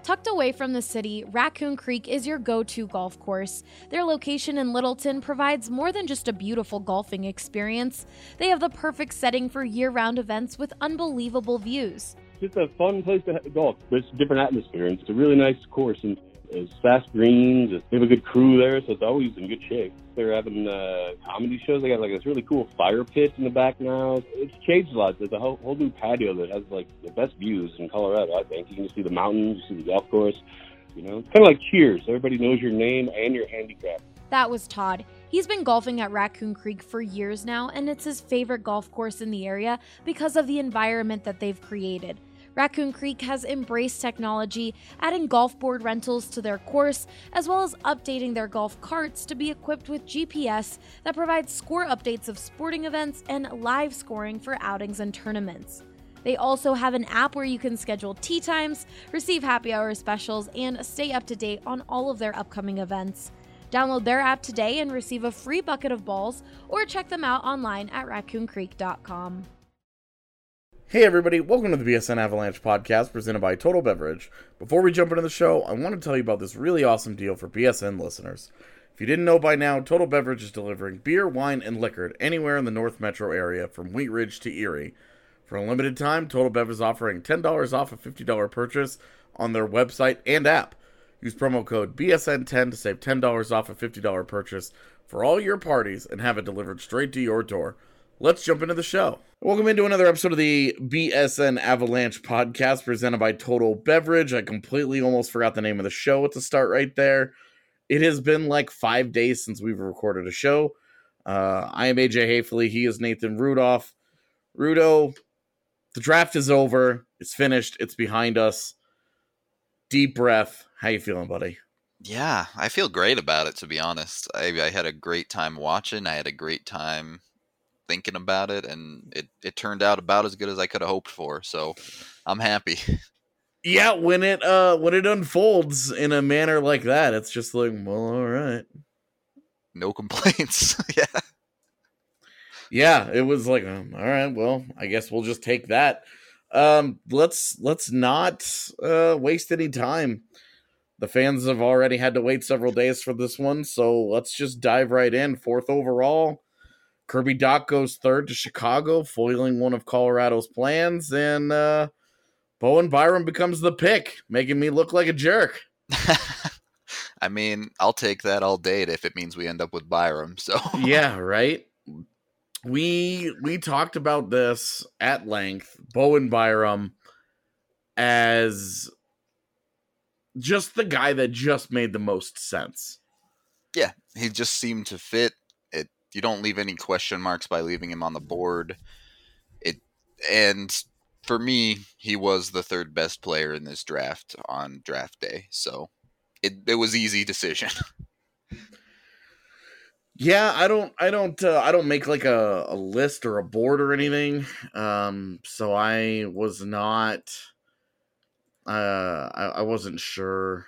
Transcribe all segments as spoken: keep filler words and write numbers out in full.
Tucked away from the city, Raccoon Creek is your go-to golf course. Their location in Littleton provides more than just a beautiful golfing experience. They have the perfect setting for year-round events with unbelievable views. It's just a fun place to golf. It's a different atmosphere, and it's a really nice course, and it's fast greens. They have a good crew there, so it's always in good shape. They're having uh, comedy shows. They got like this really cool fire pit in the back now. It's changed a lot. There's a whole, whole new patio that has like the best views in Colorado, I think. You can see the mountains, you see the golf course. You know, it's kind of like Cheers. Everybody knows your name and your handicap. That was Todd. He's been golfing at Raccoon Creek for years now, and it's his favorite golf course in the area because of the environment that they've created. Raccoon Creek has embraced technology, adding golf board rentals to their course, as well as updating their golf carts to be equipped with G P S that provides score updates of sporting events and live scoring for outings and tournaments. They also have an app where you can schedule tee times, receive happy hour specials, and stay up to date on all of their upcoming events. Download their app today and receive a free bucket of balls, or check them out online at raccoon creek dot com. Hey everybody, welcome to the B S N Avalanche podcast presented by Total Beverage. Before we jump into the show, I want to tell you about this really awesome deal for B S N listeners. If you didn't know by now, Total Beverage is delivering beer, wine, and liquor anywhere in the North Metro area from Wheat Ridge to Erie. For a limited time, Total Bev is offering ten dollars off a fifty dollars purchase on their website and app. Use promo code B S N ten to save ten dollars off a fifty dollars purchase for all your parties and have it delivered straight to your door. Let's jump into the show. Welcome into another episode of the B S N Avalanche podcast presented by Total Beverage. I completely almost forgot the name of the show at the start right there. It has been like five days since we've recorded a show. Uh, I am A J Hafley. He is Nathan Rudolph. Rudo, the draft is over. It's finished. It's behind us. Deep breath. How you feeling, buddy? Yeah, I feel great about it, to be honest. I, I had a great time watching. I had a great time thinking about it, and it, it turned out about as good as I could have hoped for, so I'm happy. Yeah, when it uh when it unfolds in a manner like that, it's just like, well, all right. No complaints. Yeah. Yeah, it was like, um, all right, well, I guess we'll just take that. Um, let's let's not uh waste any time. The fans have already had to wait several days for this one, so let's just dive right in. Fourth overall, Kirby Dach goes third to Chicago, foiling one of Colorado's plans, and uh, Bowen Byram becomes the pick, making me look like a jerk. I mean, I'll take that all day if it means we end up with Byram. So yeah, right? We we talked about this at length, Bowen Byram as just the guy that just made the most sense. Yeah, he just seemed to fit. It you don't leave any question marks by leaving him on the board. It and for me, he was the third best player in this draft on draft day. So it it was easy decision. Yeah, I don't, I don't, uh, I don't make like a, a list or a board or anything. Um, so I was not, uh, I, I wasn't sure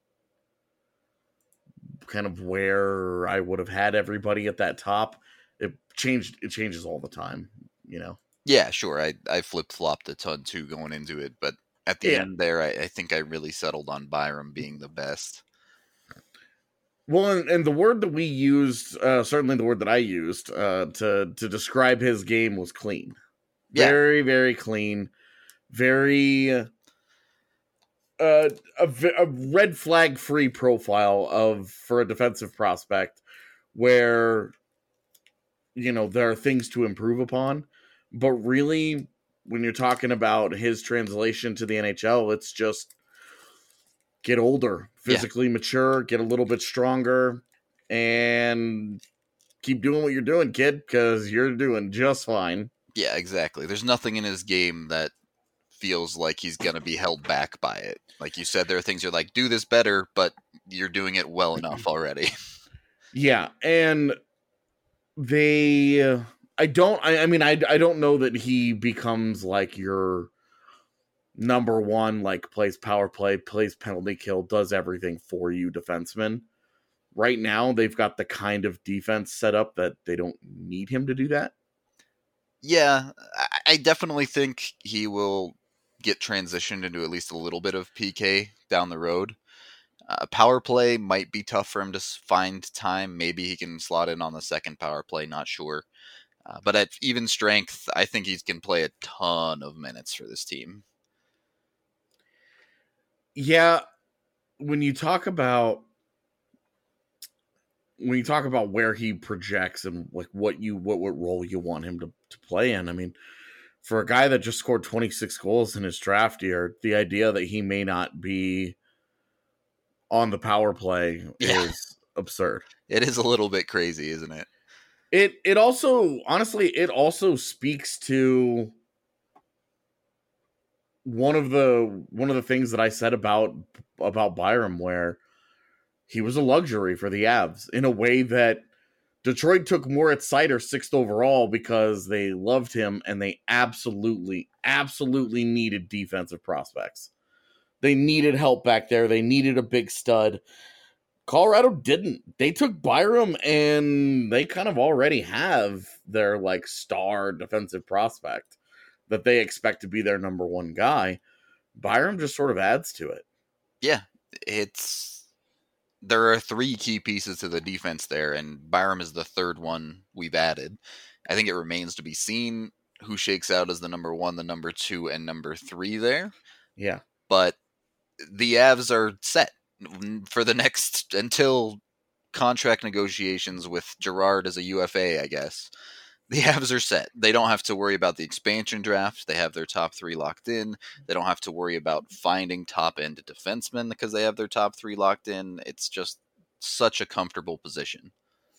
kind of where I would have had everybody at that top. It changed, it changes all the time, you know? Yeah, sure. I, I flip-flopped a ton too going into it, but at the Yeah. end there, I, I think I really settled on Byram being the best. Well, and, and the word that we used, uh, certainly the word that I used uh, to to describe his game was clean. Yeah. Very, very clean. Very uh, a, a red flag free profile of for a defensive prospect, where you know there are things to improve upon, but really, when you're talking about his translation to the N H L, it's just get older, physically yeah. mature, get a little bit stronger, and keep doing what you're doing, kid, because you're doing just fine. Yeah, exactly. There's nothing in his game that feels like he's going to be held back by it. Like you said, there are things you're like, do this better, but you're doing it well enough already. Yeah, and they... I don't... I, I mean, I, I don't know that he becomes like your number one, like plays power play, plays penalty kill, does everything for you defenseman. Right now, they've got the kind of defense set up that they don't need him to do that. Yeah, I definitely think he will get transitioned into at least a little bit of P K down the road. Uh, power play might be tough for him to find time. Maybe he can slot in on the second power play, not sure. Uh, but at even strength, I think he can play a ton of minutes for this team. Yeah, when you talk about when you talk about where he projects and like what you what what role you want him to, to play in, I mean, for a guy that just scored twenty-six goals in his draft year, the idea that he may not be on the power play Yeah. is absurd. It is a little bit crazy, isn't it? It it also honestly it also speaks to one of the one of the things that I said about about Byram, where he was a luxury for the Avs in a way that Detroit took more at Seider sixth overall because they loved him and they absolutely, absolutely needed defensive prospects. They needed help back there. They needed a big stud. Colorado didn't. They took Byram and they kind of already have their like star defensive prospect that they expect to be their number one guy. Byram just sort of adds to it. Yeah, it's there are three key pieces to the defense there, and Byram is the third one we've added. I think it remains to be seen who shakes out as the number one, the number two, and number three there. Yeah. But the Avs are set for the next, until contract negotiations with Girard as a U F A, I guess. The Avs are set. They don't have to worry about the expansion draft. They have their top three locked in. They don't have to worry about finding top-end defensemen because they have their top three locked in. It's just such a comfortable position.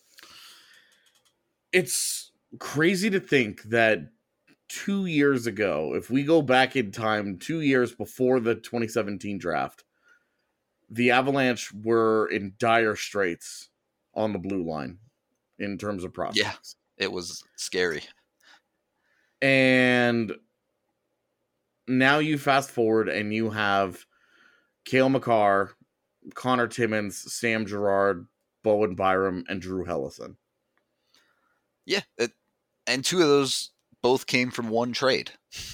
It's crazy to think that two years ago, if we go back in time, two years before the twenty seventeen draft, the Avalanche were in dire straits on the blue line in terms of prospects. Yeah. It was scary. And now you fast forward and you have Cale Makar, Connor Timmins, Sam Girard, Bowen Byram, and Drew Helleson. Yeah. It, and two of those both came from one trade.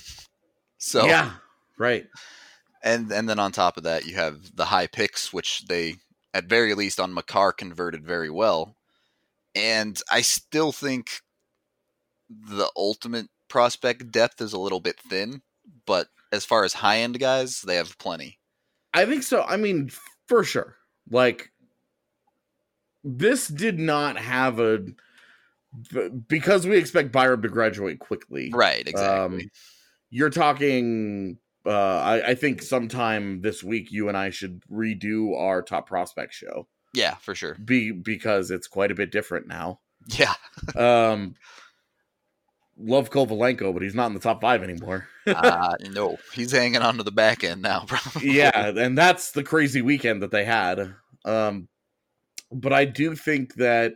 So yeah, right. And and then on top of that, you have the high picks, which they, at very least on Makar, converted very well. And I still think the ultimate prospect depth is a little bit thin, but as far as high-end guys, they have plenty. I think so. I mean, for sure. Like, this did not have a... Because we expect Byram to graduate quickly. Right, exactly. Um, you're talking... Uh, I, I think sometime this week, you and I should redo our top prospect show. Yeah, for sure. Be because it's quite a bit different now. Yeah. um, love Kovalenko, but he's not in the top five anymore. uh, no, he's hanging on to the back end now, probably. Yeah, and that's the crazy weekend that they had. Um, but I do think that,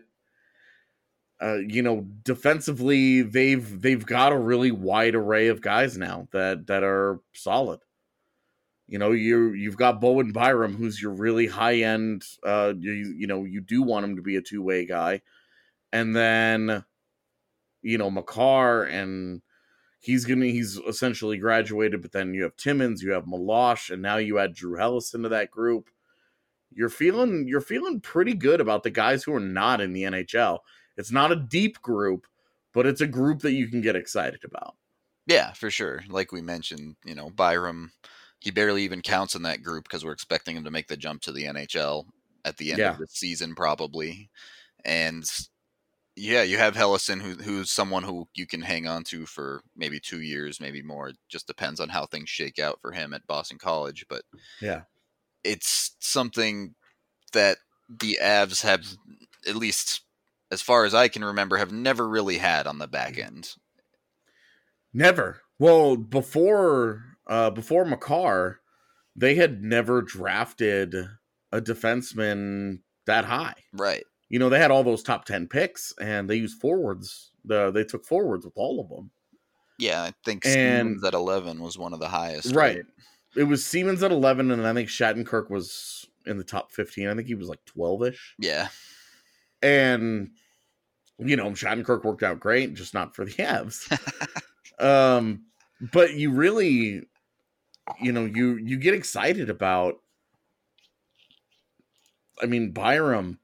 uh, you know, defensively, they've they've got a really wide array of guys now that that are solid. You know, you you've got Bowen Byram, who's your really high end. Uh, you you know, you do want him to be a two way guy, and then, you know, Makar, and he's gonna he's essentially graduated. But then you have Timmins, you have Milosh, and now you add Drew Helleson to that group. You're feeling you're feeling pretty good about the guys who are not in the N H L. It's not a deep group, but it's a group that you can get excited about. Yeah, for sure. Like we mentioned, you know, Byram. He barely even counts in that group because we're expecting him to make the jump to the N H L at the end yeah. of the season, probably. And yeah, you have Helleson, who, who's someone who you can hang on to for maybe two years, maybe more. It just depends on how things shake out for him at Boston College. But yeah, it's something that the Avs have, at least as far as I can remember, have never really had on the back end. Never. Well, before... Uh, before Makar, they had never drafted a defenseman that high. Right. You know, they had all those top ten picks, and they used forwards. The they took forwards with all of them. Yeah, I think and, Siemens at eleven was one of the highest. Right. right. It was Siemens at eleven, and I think Shattenkirk was in the top fifteen. I think he was like twelve-ish. Yeah. And, you know, Shattenkirk worked out great, just not for the Avs. um, but you really... You know, you, you get excited about I mean, Byram,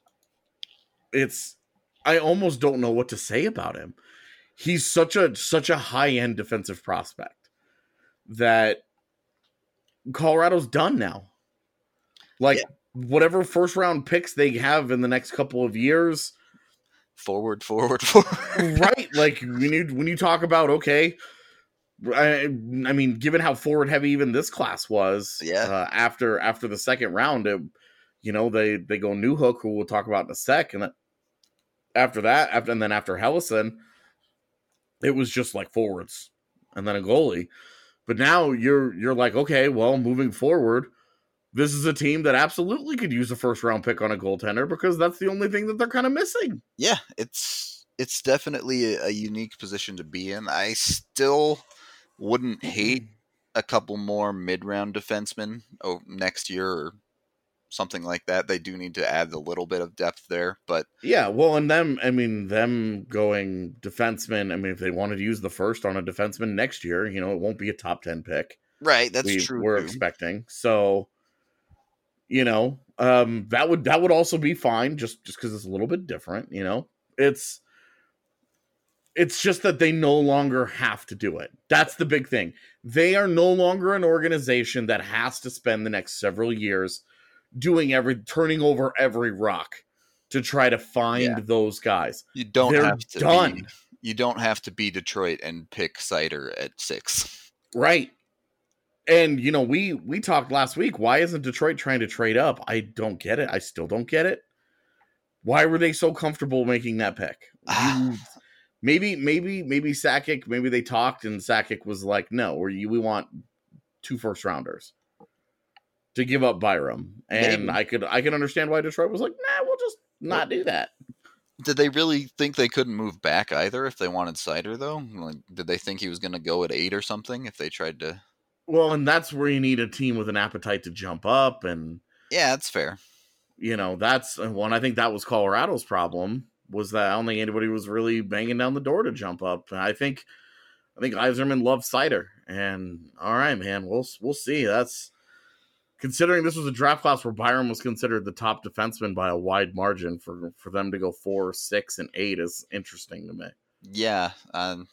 it's, I almost don't know what to say about him. He's such a, such a high-end defensive prospect that Colorado's done now. Like, yeah. whatever first-round picks they have in the next couple of years, forward, forward, forward. Right. Like, when you, when you talk about, okay, I, I mean, given how forward heavy even this class was, yeah. Uh, after after the second round, it, you know, they they go Newhook, who we'll talk about in a sec, and then after that, after and then after Helleson, it was just like forwards and then a goalie. But now you're you're like, okay, well, moving forward, this is a team that absolutely could use a first round pick on a goaltender because that's the only thing that they're kind of missing. Yeah, it's it's definitely a, a unique position to be in. I still wouldn't hate a couple more mid-round defensemen oh, next year or something like that. They do need to add a little bit of depth there, but yeah, well, and them, I mean, them going defenseman. I mean, if they wanted to use the first on a defenseman next year, you know, it won't be a top ten pick, right? That's we, true. We're too. expecting, so you know, um, that would that would also be fine, just just because it's a little bit different. You know, it's. It's just that they no longer have to do it. That's the big thing. They are no longer an organization that has to spend the next several years doing every, turning over every rock to try to find yeah. those guys. You don't They're have to done. Be, you don't have to be Detroit and pick Seider at six. Right. And, you know, we, we talked last week. Why isn't Detroit trying to trade up? I don't get it. I still don't get it. Why were they so comfortable making that pick? You, Maybe, maybe, maybe Sakic, maybe they talked and Sakic was like, no, we, we want two first rounders to give up Byram. And maybe. I could, I can understand why Detroit was like, nah, we'll just not do that. Did they really think they couldn't move back either if they wanted Seider though? Like, did they think he was going to go at eight or something if they tried to? Well, and that's where you need a team with an appetite to jump up. And yeah, that's fair. You know, that's one. I think that was Colorado's problem. Was that I don't think anybody was really banging down the door to jump up. I think, I think Yzerman loves Seider, and all right, man, we'll we'll see. That's considering this was a draft class where Byram was considered the top defenseman by a wide margin. For for them to go four, six, and eight is interesting to me. Yeah, um,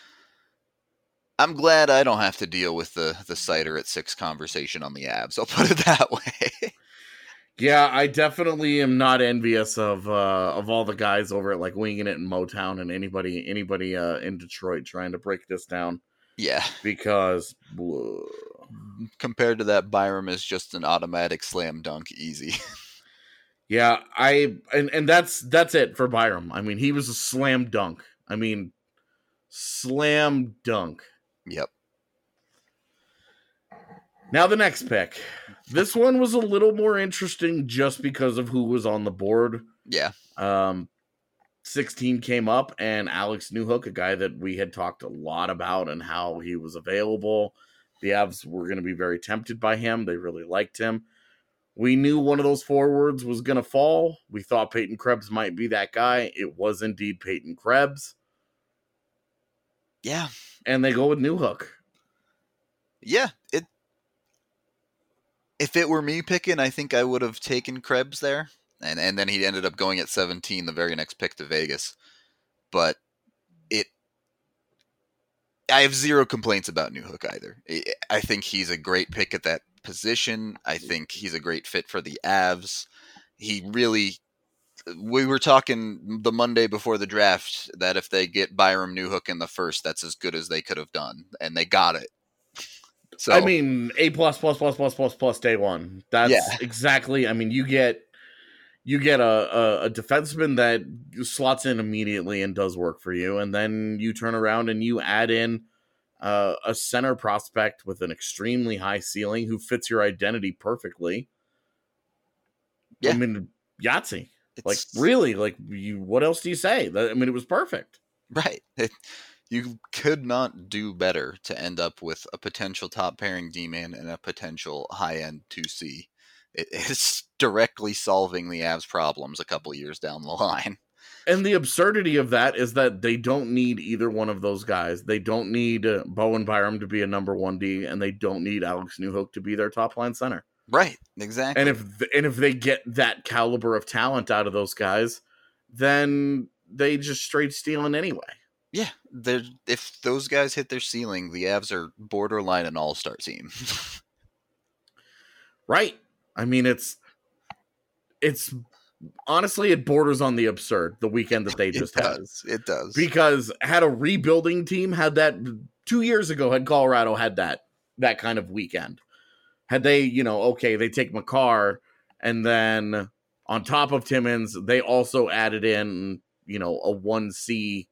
I'm glad I don't have to deal with the the Seider at six conversation on the Avs. I'll put it that way. Yeah, I definitely am not envious of uh, of all the guys over at like Winging It in Motown and anybody anybody uh, in Detroit trying to break this down. Yeah, because blah. Compared to that, Byram is just an automatic slam dunk, easy. Yeah, I and and that's that's it for Byram. I mean, he was a slam dunk. I mean, slam dunk. Yep. Now the next pick. This one was a little more interesting just because of who was on the board. Yeah. Um, sixteen came up, and Alex Newhook, a guy that we had talked a lot about and how he was available. The Avs were going to be very tempted by him. They really liked him. We knew one of those forwards was going to fall. We thought Peyton Krebs might be that guy. It was indeed Peyton Krebs. Yeah. And they go with Newhook. Yeah, it If it were me picking, I think I would have taken Krebs there. And and then he ended up going at seventeen, the very next pick to Vegas. But it, I have zero complaints about Newhook either. I think he's a great pick at that position. I think he's a great fit for the Avs. He really, we were talking the Monday before the draft that if they get Byram Newhook in the first, that's as good as they could have done. And they got it. So I mean, A plus plus plus plus plus plus day one. That's yeah. exactly. I mean, you get you get a, a a defenseman that slots in immediately and does work for you, and then you turn around and you add in uh, a center prospect with an extremely high ceiling who fits your identity perfectly. Yeah. I mean, Yahtzee. It's, like really, like you. What else do you say? I mean, it was perfect. Right. It, You could not do better to end up with a potential top pairing D-man and a potential high-end two C. It is directly solving the Avs' problems a couple years down the line. And the absurdity of that is that they don't need either one of those guys. They don't need uh, Bowen Byram to be a number one D, and they don't need Alex Newhook to be their top line center. Right, exactly. And if and if they get that caliber of talent out of those guys, then they just straight stealing anyway. Yeah, they're, if those guys hit their ceiling, the Avs are borderline an all-star team. Right. I mean, it's it's honestly, it borders on the absurd, the weekend that they just it had. does. It does. Because had a rebuilding team had that two years ago, had Colorado had that that kind of weekend. Had they, you know, okay, they take Makar, and then on top of Timmins, they also added in, you know, a one C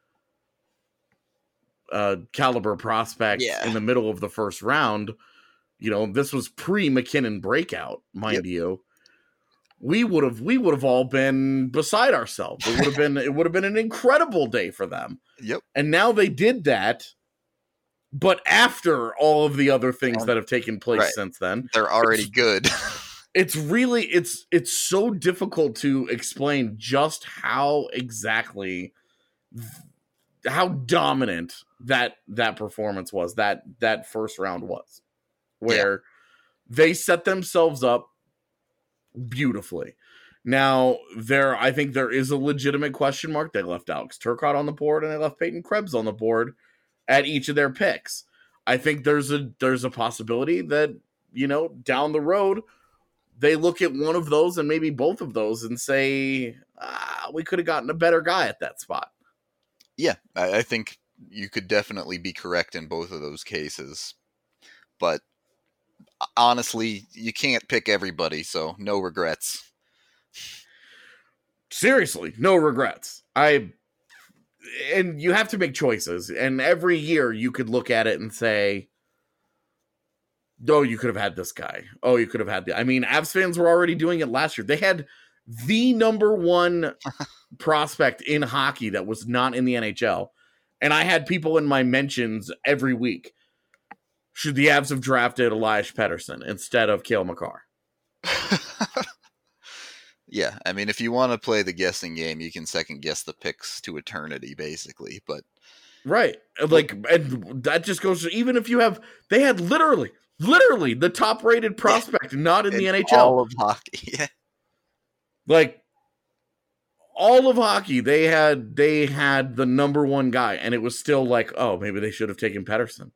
uh, caliber prospect Yeah. in the middle of the first round. You know, this was pre-McKinnon breakout, mind yep. you. We would have we would have all been beside ourselves. It would have been it would have been an incredible day for them. Yep. And now they did that, but after all of the other things that have taken place right. since then. They're already it's, good. It's really it's it's so difficult to explain just how exactly how dominant that that performance was, that that first round was. Where yeah. they set themselves up beautifully. Now, there, I think there is a legitimate question mark. They left Alex Turcotte on the board, and they left Peyton Krebs on the board at each of their picks. I think there's a there's a possibility that, you know, down the road, they look at one of those and maybe both of those and say, ah, we could have gotten a better guy at that spot. Yeah, I, I think you could definitely be correct in both of those cases. But honestly, you can't pick everybody, so no regrets. Seriously, no regrets. I and you have to make choices, and every year you could look at it and say, oh, you could have had this guy. Oh, you could have had the I mean, Avs fans were already doing it last year. They had the number one prospect in hockey that was not in the N H L, and I had people in my mentions every week. Should the Avs have drafted Elias Pettersson instead of Cale Makar? Yeah, I mean, if you want to play the guessing game, you can second guess the picks to eternity, basically. But right, like, and that just goes to, even if you have, they had literally, literally the top rated prospect yeah. not in, in the N H L. All of hockey, yeah. Like all of hockey, they had they had the number one guy, and it was still like, oh, maybe they should have taken Pettersson.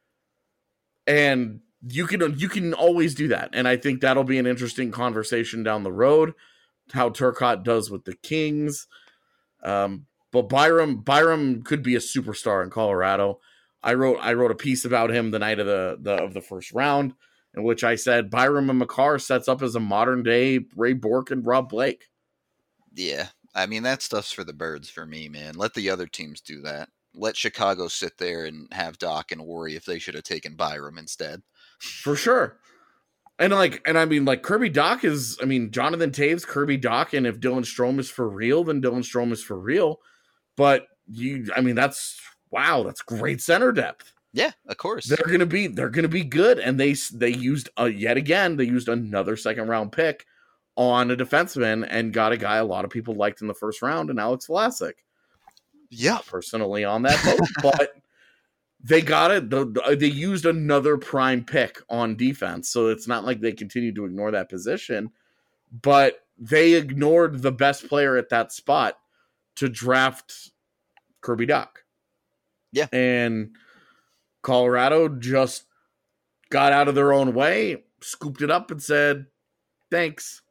And you can you can always do that. And I think that'll be an interesting conversation down the road, how Turcotte does with the Kings. Um, but Byram Byram could be a superstar in Colorado. I wrote I wrote a piece about him the night of the, the of the first round, in which I said Byram and Makar sets up as a modern day Ray Bourque and Rob Blake. Yeah. I mean, that stuff's for the birds for me, man. Let the other teams do that. Let Chicago sit there and have Doc and worry if they should have taken Byram instead. For sure. And like, and I mean, like Kirby Doc is, I mean, Jonathan Taves, Kirby Doc, and if Dylan Strome is for real, then Dylan Strome is for real. But you, I mean, that's, wow, that's great center depth. Yeah, of course. They're going to be, they're going to be good. And they, they used, uh, yet again, they used another second round pick on a defenseman and got a guy a lot of people liked in the first round, and Alex Vlasic. Yeah, personally on that boat, but they got it. The, the, they used another prime pick on defense, so it's not like they continued to ignore that position, but they ignored the best player at that spot to draft Kirby Doc. Yeah, and Colorado just got out of their own way, scooped it up, and said, "Thanks."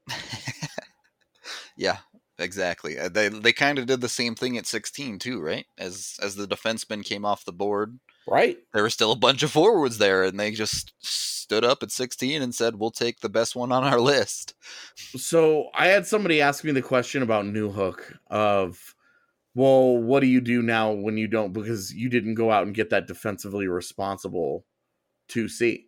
Yeah. Exactly. They they kind of did the same thing at sixteen too, right? As as the defensemen came off the board, right? There were still a bunch of forwards there, and they just stood up at sixteen and said, "We'll take the best one on our list." So I had somebody ask me the question about Newhook of, well, what do you do now when you don't, because you didn't go out and get that defensively responsible two C?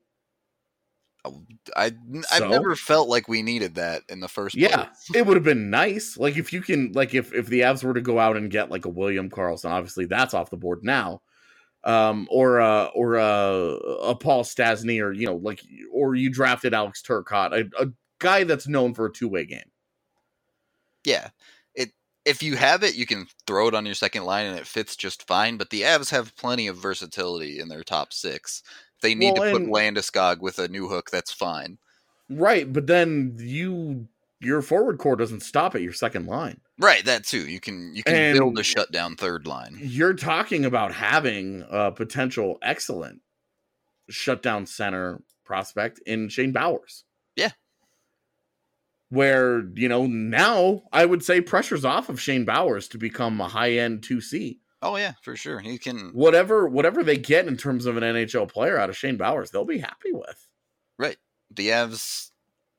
I, I've so, never felt like we needed that in the first place. Yeah, it would have been nice. Like, if you can, like, if, if the Avs were to go out and get, like, a William Karlsson, obviously that's off the board now, um, or, uh, or uh, a Paul Stastny, or, you know, like, or you drafted Alex Turcotte, a, a guy that's known for a two-way game. Yeah. It if you have it, you can throw it on your second line and it fits just fine, but the Avs have plenty of versatility in their top six. They need well, to put Landeskog with a Newhook, that's fine. Right, but then you your forward core doesn't stop at your second line. Right, that too. You can you can And build a shutdown third line. You're talking about having a potential excellent shutdown center prospect in Shane Bowers. Yeah. Where, you know, now I would say pressure's off of Shane Bowers to become a high-end two C. Oh, yeah, for sure. He can... Whatever whatever they get in terms of an N H L player out of Shane Bowers, they'll be happy with. Right. The Avs...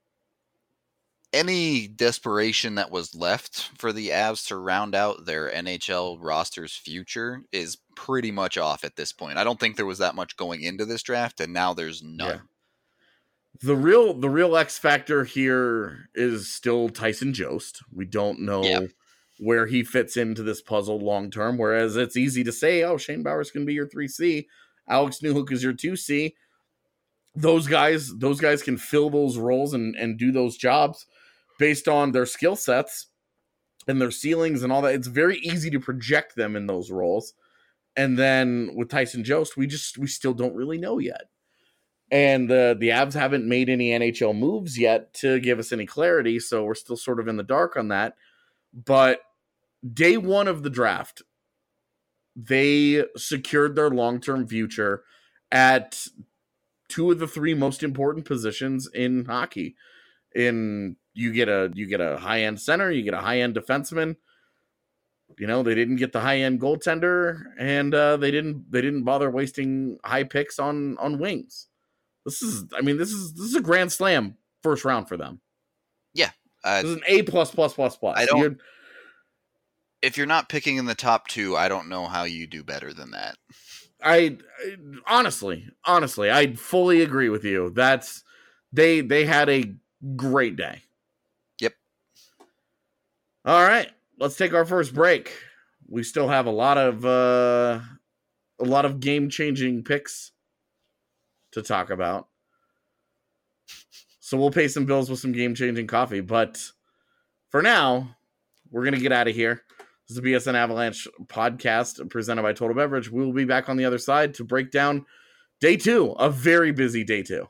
Any desperation that was left for the Avs to round out their N H L roster's future is pretty much off at this point. I don't think there was that much going into this draft, and now there's none. Yeah. The real the real X factor here is still Tyson Jost. We don't know Yeah. where he fits into this puzzle long term, whereas it's easy to say, oh, Shane Bowers can be your three C, Alex Newhook is your two C. Those guys, those guys can fill those roles and, and do those jobs based on their skill sets and their ceilings and all that. It's very easy to project them in those roles. And then with Tyson Jost, we just we still don't really know yet. And uh, the Avs haven't made any N H L moves yet to give us any clarity, so we're still sort of in the dark on that. But day one of the draft, they secured their long-term future at two of the three most important positions in hockey. In you get a you get a high-end center, you get a high-end defenseman. You know, they didn't get the high-end goaltender, and uh, they didn't they didn't bother wasting high picks on on wings. This is, I mean, this is this is a grand slam first round for them. Yeah, uh, this is an A plus plus plus plus. I don't. You're, if you're not picking in the top two, I don't know how you do better than that. I, I honestly, honestly, I fully agree with you. That's they they had a great day. Yep. All right, let's take our first break. We still have a lot of uh, a lot of game changing picks to talk about. So we'll pay some bills with some game-changing coffee. But for now, we're going to get out of here. This is the B S N Avalanche podcast presented by Total Beverage. We will be back on the other side to break down day two, a very busy day two.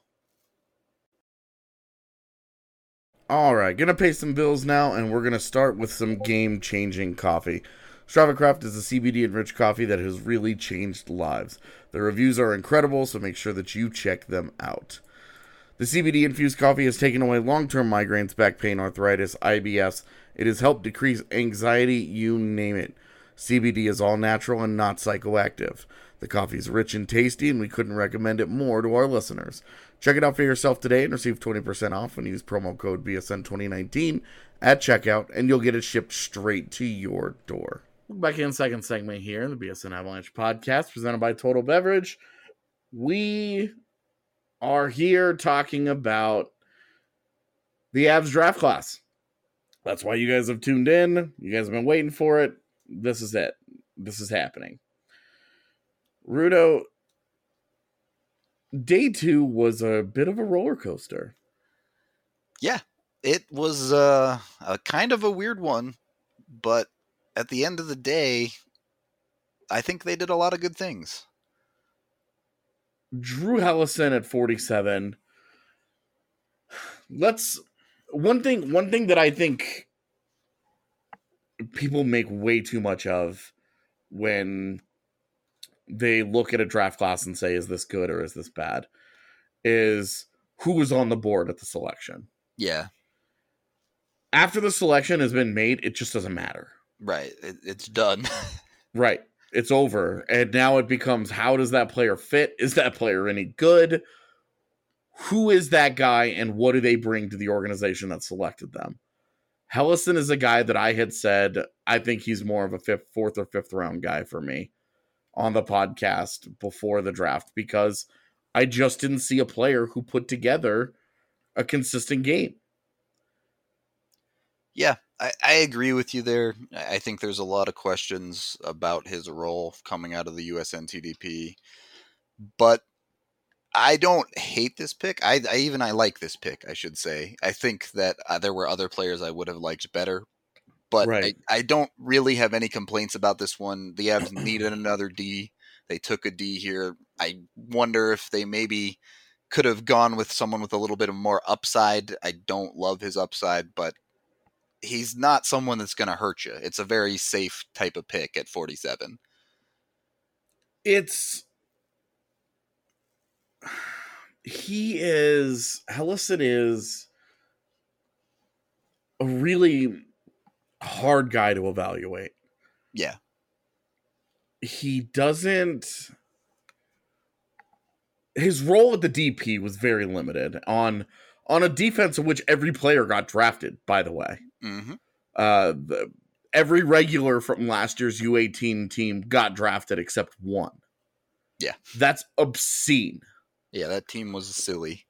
All right, going to pay some bills now, and we're going to start with some game-changing coffee. Strava Craft is a C B D-enriched coffee that has really changed lives. The reviews are incredible, so make sure that you check them out. The C B D-infused coffee has taken away long-term migraines, back pain, arthritis, I B S. It has helped decrease anxiety, you name it. C B D is all natural and not psychoactive. The coffee is rich and tasty, and we couldn't recommend it more to our listeners. Check it out for yourself today and receive twenty percent off when you use promo code B S N twenty nineteen at checkout, and you'll get it shipped straight to your door. Back in second segment here, the B S N Avalanche podcast presented by Total Beverage. We are here talking about the Avs draft class. That's why you guys have tuned in. You guys have been waiting for it. This is it. This is happening. Rudo, day two was a bit of a roller coaster. Yeah, it was uh, a kind of a weird one, but at the end of the day, I think they did a lot of good things. Drew Helleson at forty-seven. Let's one thing one thing that I think people make way too much of when they look at a draft class and say, is this good or is this bad, is who was on the board at the selection. Yeah. After the selection has been made, it just doesn't matter. Right. It, it's done. Right. It's over. And now it becomes, how does that player fit? Is that player any good? Who is that guy and what do they bring to the organization that selected them? Helleson is a guy that I had said, I think he's more of a fifth, fourth or fifth round guy for me on the podcast before the draft, because I just didn't see a player who put together a consistent game. Yeah, I, I agree with you there. I think there's a lot of questions about his role coming out of the U S N T D P, but I don't hate this pick. I, I even I like this pick, I should say. I think that uh, there were other players I would have liked better, but right. I, I don't really have any complaints about this one. The Avs needed another D. They took a D here. I wonder if they maybe could have gone with someone with a little bit of more upside. I don't love his upside, but he's not someone that's going to hurt you. It's a very safe type of pick at forty-seven. It's he is Helleson is a really hard guy to evaluate. Yeah. He doesn't his role at the D P was very limited on on a defense in which every player got drafted, by the way. Mm-hmm. Uh the, every regular from last year's U eighteen team got drafted except one. Yeah. That's obscene. Yeah, that team was silly.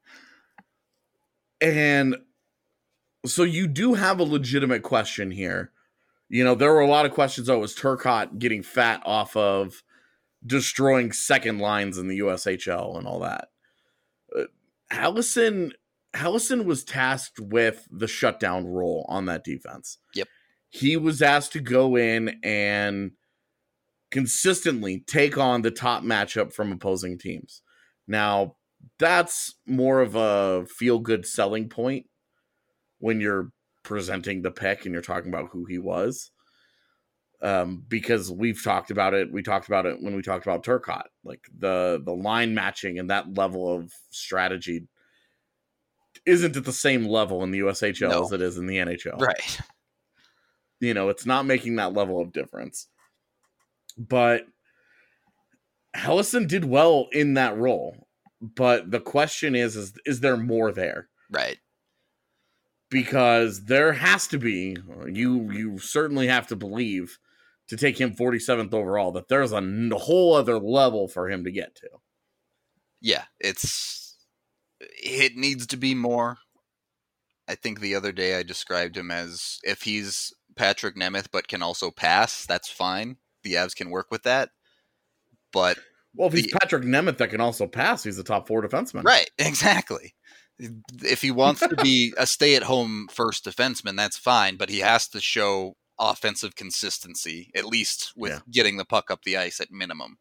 And so you do have a legitimate question here. You know, there were a lot of questions. Oh, was Turcotte getting fat off of destroying second lines in the U S H L and all that? Uh, Helleson, Helleson was tasked with the shutdown role on that defense. Yep. He was asked to go in and consistently take on the top matchup from opposing teams. Now, that's more of a feel-good selling point when you're presenting the pick and you're talking about who he was. Um, because we've talked about it. We talked about it when we talked about Turcotte. Like, the, the line matching and that level of strategy isn't at the same level in the U S H L No. as it is in the N H L. Right. You know, it's not making that level of difference. But Helleson did well in that role. But the question is, is, is there more there? Right. Because there has to be, you you certainly have to believe, to take him forty-seventh overall, that there's a n- whole other level for him to get to. Yeah, it's it needs to be more. I think the other day I described him as, if he's Patrick Nemeth but can also pass, that's fine. The Avs can work with that. But Well, if he's the, Patrick Nemeth that can also pass, he's a top four defenseman. Right, exactly. If he wants to be a stay-at-home first defenseman, that's fine, but he has to show offensive consistency, at least with Yeah. getting the puck up the ice at minimum.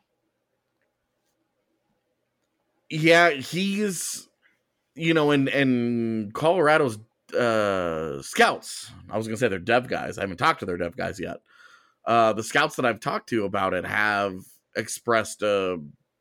Yeah, he's, you know, and and Colorado's uh, scouts, I was going to say they're dev guys. I haven't talked to their dev guys yet. Uh, the scouts that I've talked to about it have expressed uh,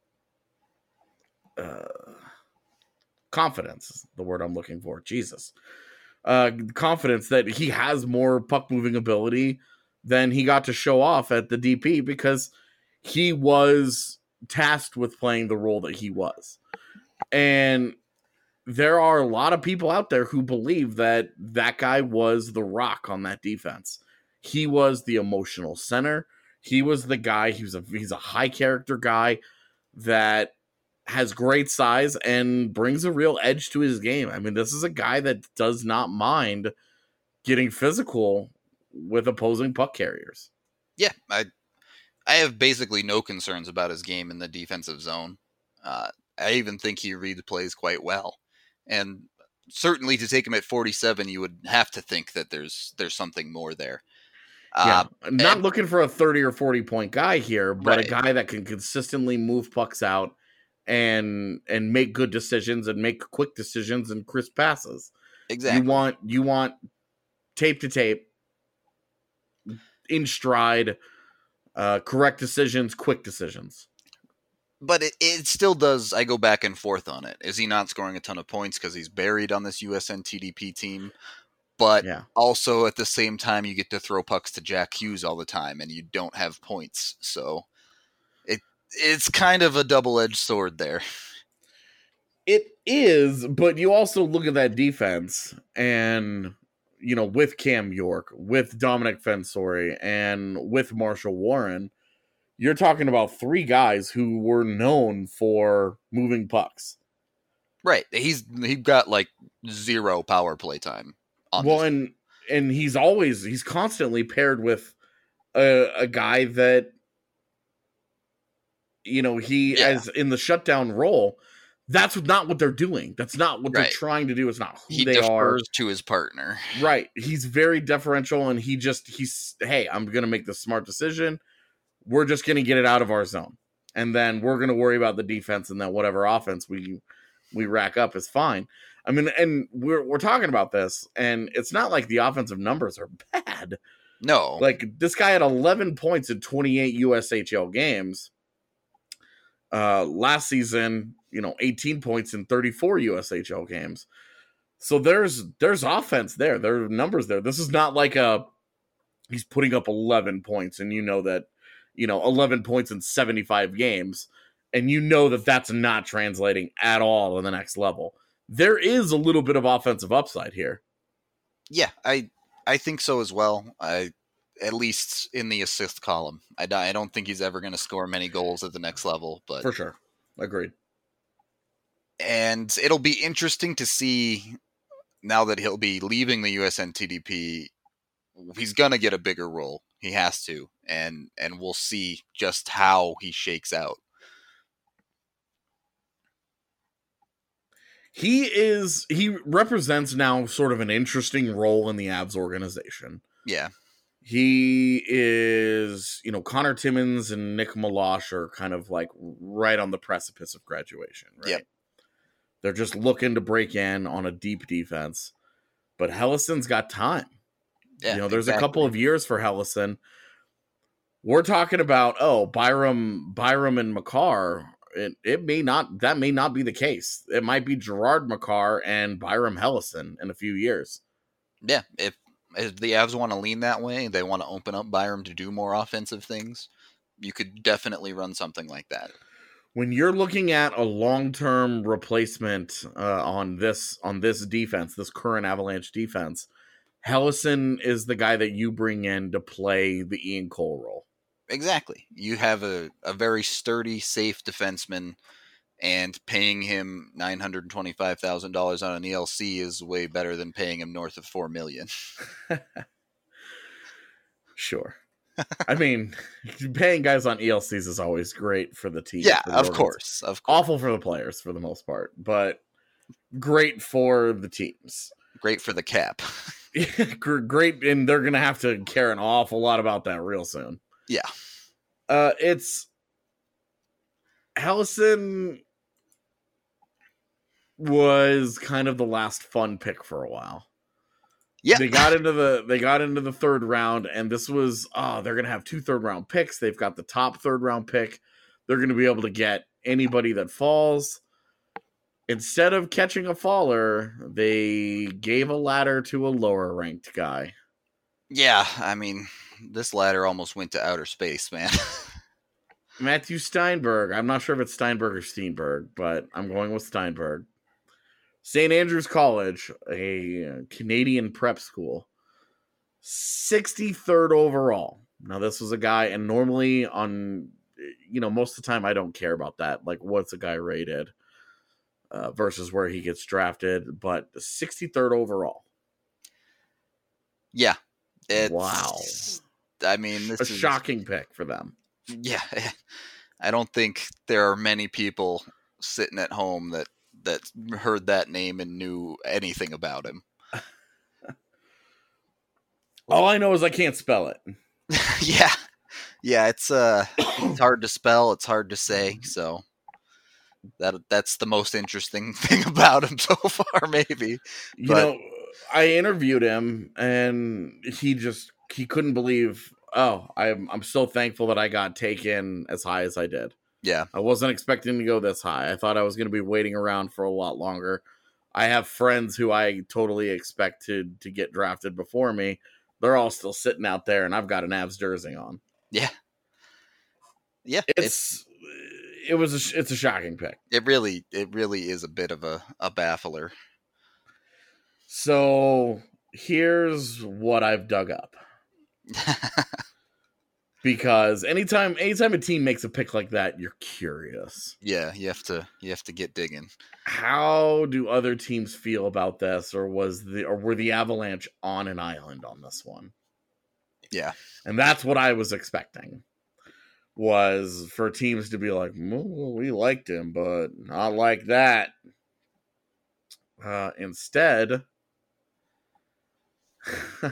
uh, confidence, is the word I'm looking for. Jesus. Uh, confidence that he has more puck moving ability than he got to show off at the D P, because he was tasked with playing the role that he was. And there are a lot of people out there who believe that that guy was the rock on that defense. He was the emotional center. He was the guy, he was a, he's a high character guy that has great size and brings a real edge to his game. I mean, this is a guy that does not mind getting physical with opposing puck carriers. Yeah, I I have basically no concerns about his game in the defensive zone. Uh, I even think he reads plays quite well. And certainly to take him at forty-seven, you would have to think that there's there's something more there. Yeah, Uh, I'm not and- looking for a thirty or forty point guy here, but Right. a guy that can consistently move pucks out and and make good decisions and make quick decisions and crisp passes. Exactly. You want you want tape to tape, in stride, uh, correct decisions, quick decisions. But it, it still does, I go back and forth on it. Is he not scoring a ton of points because he's buried on this U S N T D P team? But Yeah. also at the same time, you get to throw pucks to Jack Hughes all the time, and you don't have points. So it it's kind of a double-edged sword there. It is, but you also look at that defense and, you know, with Cam York, with Dominic Fensori, and with Marshall Warren, you're talking about three guys who were known for moving pucks. Right. He's he got like zero power play time. On Well, this. and and he's always he's constantly paired with a, a guy that, you know, he Yeah. as in the shutdown role. That's not what they're doing. That's not what Right. they're trying to do. It's not who he they are. defers to his partner. Right. He's very deferential, and he just he's hey, I'm gonna make the smart decision. We're just gonna get it out of our zone, and then we're gonna worry about the defense and then whatever offense we we rack up is fine. I mean, and we're we're talking about this, and it's not like the offensive numbers are bad. No. Like, this guy had eleven points in twenty-eight U S H L games. Uh, last season, you know, eighteen points in thirty-four U S H L games. So there's there's offense there. There are numbers there. This is not like a he's putting up eleven points, and you know that, you know, eleven points in seventy-five games, and you know that that's not translating at all in the next level. There is a little bit of offensive upside here. Yeah, I I think so as well. I at least in the assist column. I, I don't think he's ever going to score many goals at the next level, but For sure. Agreed. And it'll be interesting to see now that he'll be leaving the U S N T D P. He's going to get a bigger role. He has to, and and we'll see just how he shakes out. He is he represents now sort of an interesting role in the Avs organization. Yeah. He is, you know, Connor Timmins and Nick Meloche are kind of like right on the precipice of graduation, right? Yep. They're just looking to break in on a deep defense. But Hellison's got time. Yeah, you know, there's exactly. a couple of years for Hellison. We're talking about, oh, Byram, Byram and Makar. It it may not that may not be the case. It might be Gerard Makar and Byram Hellison in a few years. Yeah, if if the Avs want to lean that way, they want to open up Byram to do more offensive things, you could definitely run something like that. When you're looking at a long-term replacement uh, on this on this defense, this current Avalanche defense, Hellison is the guy that you bring in to play the Ian Cole role. Exactly. You have a, a very sturdy, safe defenseman, and paying him nine hundred twenty-five thousand dollars on an E L C is way better than paying him north of four million dollars. Sure. I mean, paying guys on E L Cs is always great for the team. Yeah, the of course, of course. Awful for the players for the most part, but great for the teams. Great for the cap. Great, and they're going to have to care an awful lot about that real soon. Yeah. Uh, it's Hellison was kind of the last fun pick for a while. Yeah. They got into the they got into the third round, and this was oh, they're gonna have two third round picks. They've got the top third round pick. They're gonna be able to get anybody that falls. Instead of catching a faller, they gave a ladder to a lower ranked guy. Yeah, I mean, this ladder almost went to outer space, man. Matthew Steinberg. I'm not sure if it's Steinberg or Steenberg, but I'm going with Steinberg. Saint Andrews College, a Canadian prep school. sixty-third overall. Now, this was a guy, and normally on, you know, most of the time I don't care about that. Like, what's a guy rated uh, versus where he gets drafted, but sixty-third overall. Yeah. It's, wow. I mean, this a is shocking pick for them. Yeah. I don't think there are many people sitting at home that, that heard that name and knew anything about him. All I know is I can't spell it. yeah. Yeah, it's uh it's hard to spell, it's hard to say, so that that's the most interesting thing about him so far, maybe. You but, know, I interviewed him, and he just he couldn't believe. Oh, I'm I'm so thankful that I got taken as high as I did. Yeah, I wasn't expecting to go this high. I thought I was going to be waiting around for a lot longer. I have friends who I totally expected to get drafted before me. They're all still sitting out there, and I've got an Avs jersey on. Yeah, yeah. It's, it's it was a, it's a shocking pick. It really it really is a bit of a, a baffler. So here's what I've dug up. Because anytime anytime a team makes a pick like that, you're curious. Yeah, you have to you have to get digging. How do other teams feel about this, or was the or were the Avalanche on an island on this one? Yeah. And that's what I was expecting. Was for teams to be like, well, we liked him, but not like that. Uh, instead,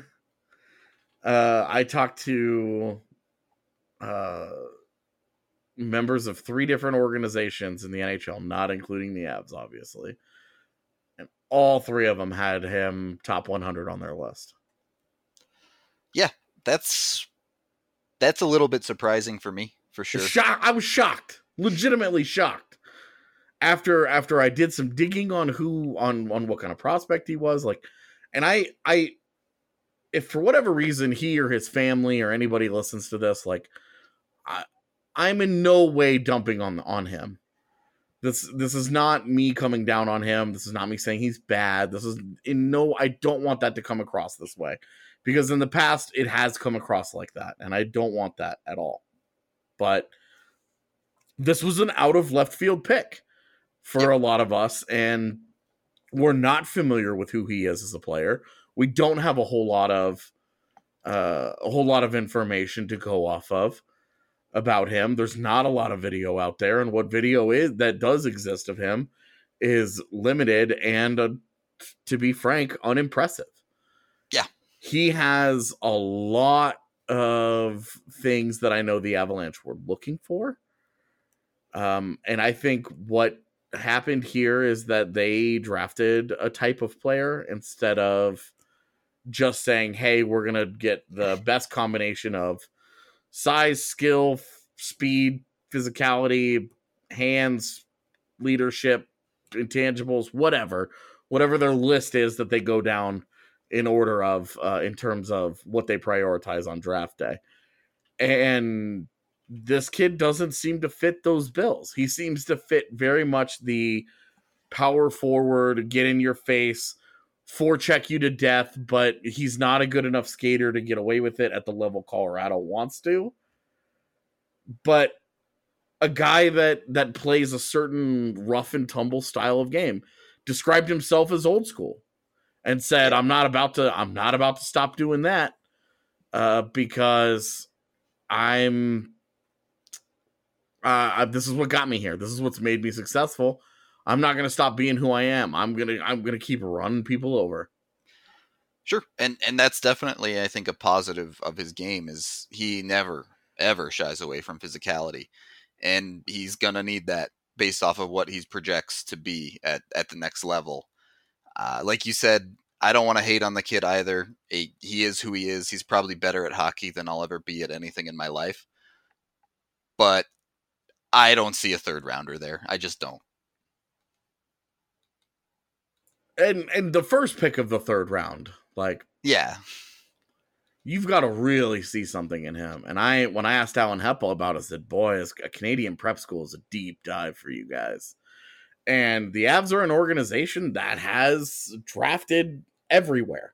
uh, I talked to uh, members of three different organizations in the N H L, not including the Avs, obviously. And all three of them had him top one hundred on their list. Yeah, that's that's a little bit surprising for me, for sure. Shock, I was shocked, legitimately shocked. After after I did some digging on who on on what kind of prospect he was, like, and I I if for whatever reason he or his family or anybody listens to this, like, I I'm in no way dumping on on him. This this is not me coming down on him. This is not me saying he's bad. This is in no, I don't want that to come across this way, because in the past it has come across like that, and I don't want that at all. But this was an out of left field pick for a lot of us, and we're not familiar with who he is as a player. We don't have a whole lot of uh, a whole lot of information to go off of about him. There's not a lot of video out there, and what video is that does exist of him is limited and, uh, to be frank, unimpressive. Yeah, he has a lot of things that I know the Avalanche were looking for, um, and I think what happened here is that they drafted a type of player instead of just saying, hey, we're gonna get the best combination of size, skill, f- speed, physicality, hands, leadership, intangibles, whatever whatever their list is that they go down in order of uh, in terms of what they prioritize on draft day. And this kid doesn't seem to fit those bills. He seems to fit very much the power forward, get in your face, forecheck you to death, but he's not a good enough skater to get away with it at the level Colorado wants to. But a guy that that plays a certain rough and tumble style of game described himself as old school and said, I'm not about to I'm not about to stop doing that uh, because I'm Uh, this is what got me here. This is what's made me successful. I'm not going to stop being who I am. I'm going to, I'm going to keep running people over. Sure. And, and that's definitely, I think, a positive of his game is he never, ever shies away from physicality, and he's going to need that based off of what he projects to be at, at the next level. Uh, like you said, I don't want to hate on the kid either. He, he is who he is. He's probably better at hockey than I'll ever be at anything in my life, but I don't see a third rounder there. I just don't. And and the first pick of the third round, like, yeah, you've got to really see something in him. And I, when I asked Alan Heppel about it, I said, boy, a Canadian prep school is a deep dive for you guys. And the Avs are an organization that has drafted everywhere.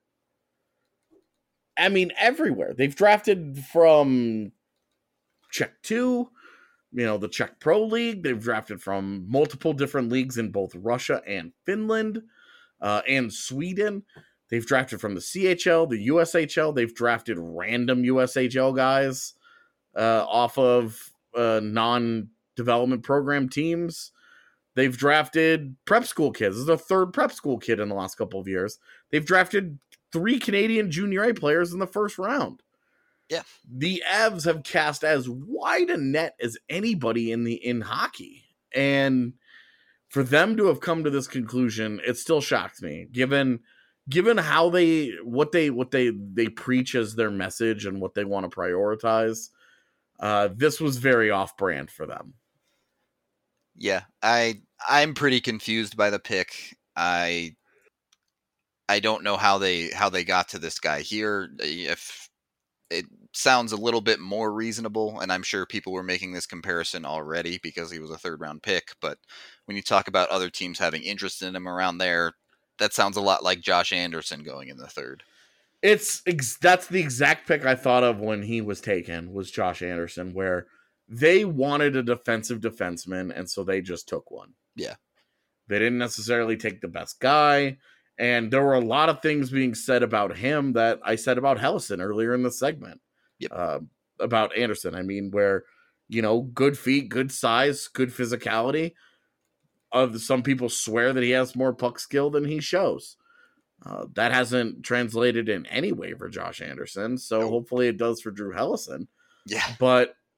I mean, everywhere. They've drafted from Czech two, you know, the Czech Pro League. They've drafted from multiple different leagues in both Russia and Finland uh, and Sweden. They've drafted from the C H L, the U S H L. They've drafted random U S H L guys uh, off of uh, non-development program teams. They've drafted prep school kids. This is the third prep school kid in the last couple of years. They've drafted three Canadian Junior A players in the first round. Yeah. The Avs have cast as wide a net as anybody in the in hockey. And for them to have come to this conclusion, it still shocks me, given given how they what they what they they preach as their message and what they want to prioritize. Uh, this was very off-brand for them. Yeah, I I'm pretty confused by the pick. I I don't know how they how they got to this guy here. If it sounds a little bit more reasonable, and I'm sure people were making this comparison already because he was a third round pick, but when you talk about other teams having interest in him around there, that sounds a lot like Josh Anderson going in the third. It's that's the exact pick I thought of when he was taken, was Josh Anderson, where they wanted a defensive defenseman, and so they just took one. Yeah. They didn't necessarily take the best guy, and there were a lot of things being said about him that I said about Helleson earlier in the segment. Yep. Uh, about Anderson. I mean, where, you know, good feet, good size, good physicality. Uh, some people swear that he has more puck skill than he shows. Uh, that hasn't translated in any way for Josh Anderson, so nope. Hopefully it does for Drew Helleson. Yeah. But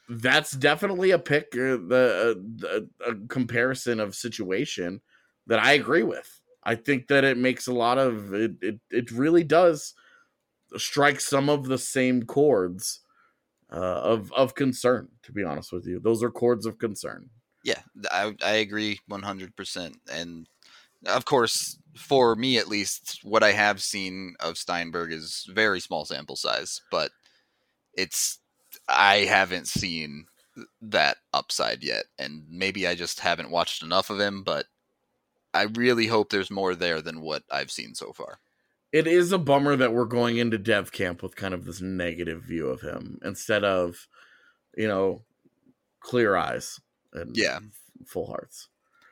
that's definitely a pick, uh, the uh, a comparison of situation that I agree with. I think that it makes a lot of it. It, it really does strike some of the same chords uh, of of concern. To be honest with you, those are chords of concern. Yeah, I I agree one hundred percent. And of course, for me at least, what I have seen of Steinberg is very small sample size, but it's I haven't seen that upside yet, and maybe I just haven't watched enough of him, but I really hope there's more there than what I've seen so far. It is a bummer that we're going into dev camp with kind of this negative view of him instead of, you know, clear eyes and yeah. full hearts.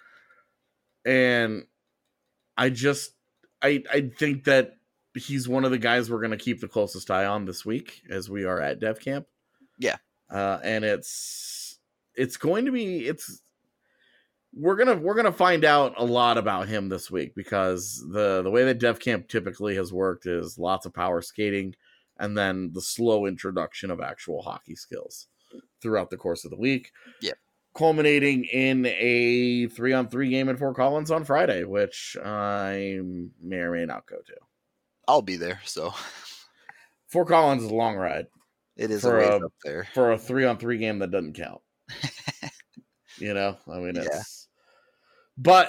And I just, I, I think that he's one of the guys we're going to keep the closest eye on this week as we are at dev camp. Yeah. Uh, and it's, it's going to be, it's, we're going to, we're going to find out a lot about him this week because the, the way that dev camp typically has worked is lots of power skating and then the slow introduction of actual hockey skills throughout the course of the week. Yeah. Culminating in a three on three game at Fort Collins on Friday, which I may or may not go to. I'll be there. So Fort Collins is a long ride. It is a ways up there for a three on three game that doesn't count. You know, I mean, it's, yeah. But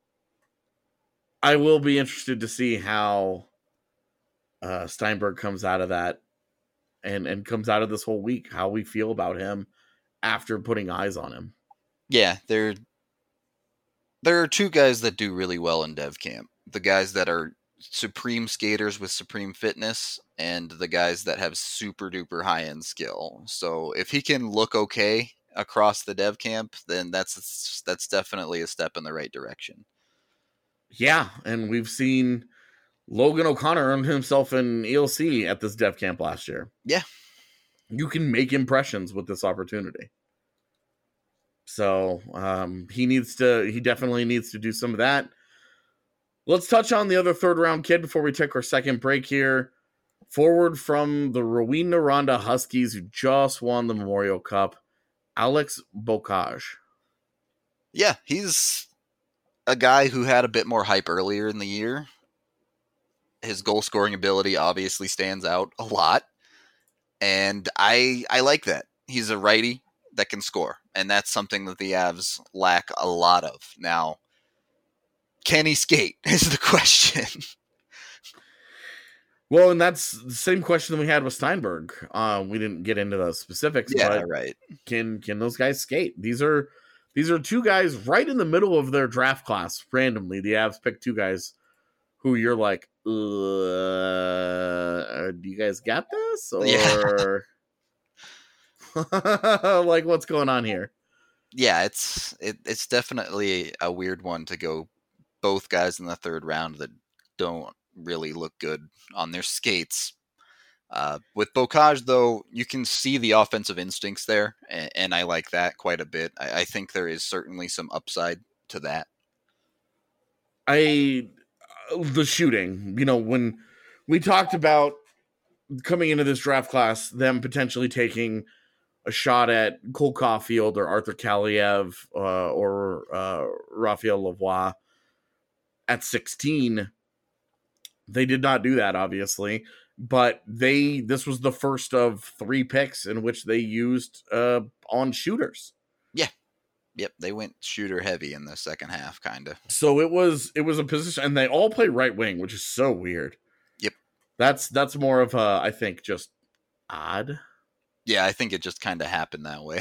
I will be interested to see how uh, Steinberg comes out of that and, and comes out of this whole week, how we feel about him after putting eyes on him. Yeah, there, there are two guys that do really well in dev camp. The guys that are supreme skaters with supreme fitness and the guys that have super duper high end skill. So if he can look okay across the dev camp, then that's that's definitely a step in the right direction. Yeah, and we've seen Logan O'Connor earn himself an E L C at this dev camp last year. Yeah. You can make impressions with this opportunity. So um, he needs to, he definitely needs to do some of that. Let's touch on the other third round kid before we take our second break here. Forward from the Rouyn-Noranda Huskies, who just won the Memorial Cup, Alex Beaucage. Yeah, he's a guy who had a bit more hype earlier in the year. His goal scoring ability obviously stands out a lot. And I I like that. He's a righty that can score. And that's something that the Avs lack a lot of. Now, can he skate is the question. Well, and that's the same question that we had with Steinberg. Uh, we didn't get into the specifics, yeah, but right. Can can those guys skate? These are these are two guys right in the middle of their draft class. Randomly, the Avs picked two guys who you're like, uh, do you guys got this? Or yeah. Like, what's going on here? Yeah, it's it, it's definitely a weird one to go both guys in the third round that don't really look good on their skates. Uh, with Beaucage, though, you can see the offensive instincts there, and, and I like that quite a bit. I, I think there is certainly some upside to that. I the shooting, you know, when we talked about coming into this draft class, them potentially taking a shot at Cole Caulfield or Arthur Kaliev uh, or uh, Raphael Lavoie at sixteen. They did not do that, obviously, but they this was the first of three picks in which they used uh, on shooters. Yeah. Yep, they went shooter heavy in the second half, kind of. So it was it was a position, and they all play right wing, which is so weird. Yep. That's that's more of a, I think, just odd. Yeah, I think it just kind of happened that way.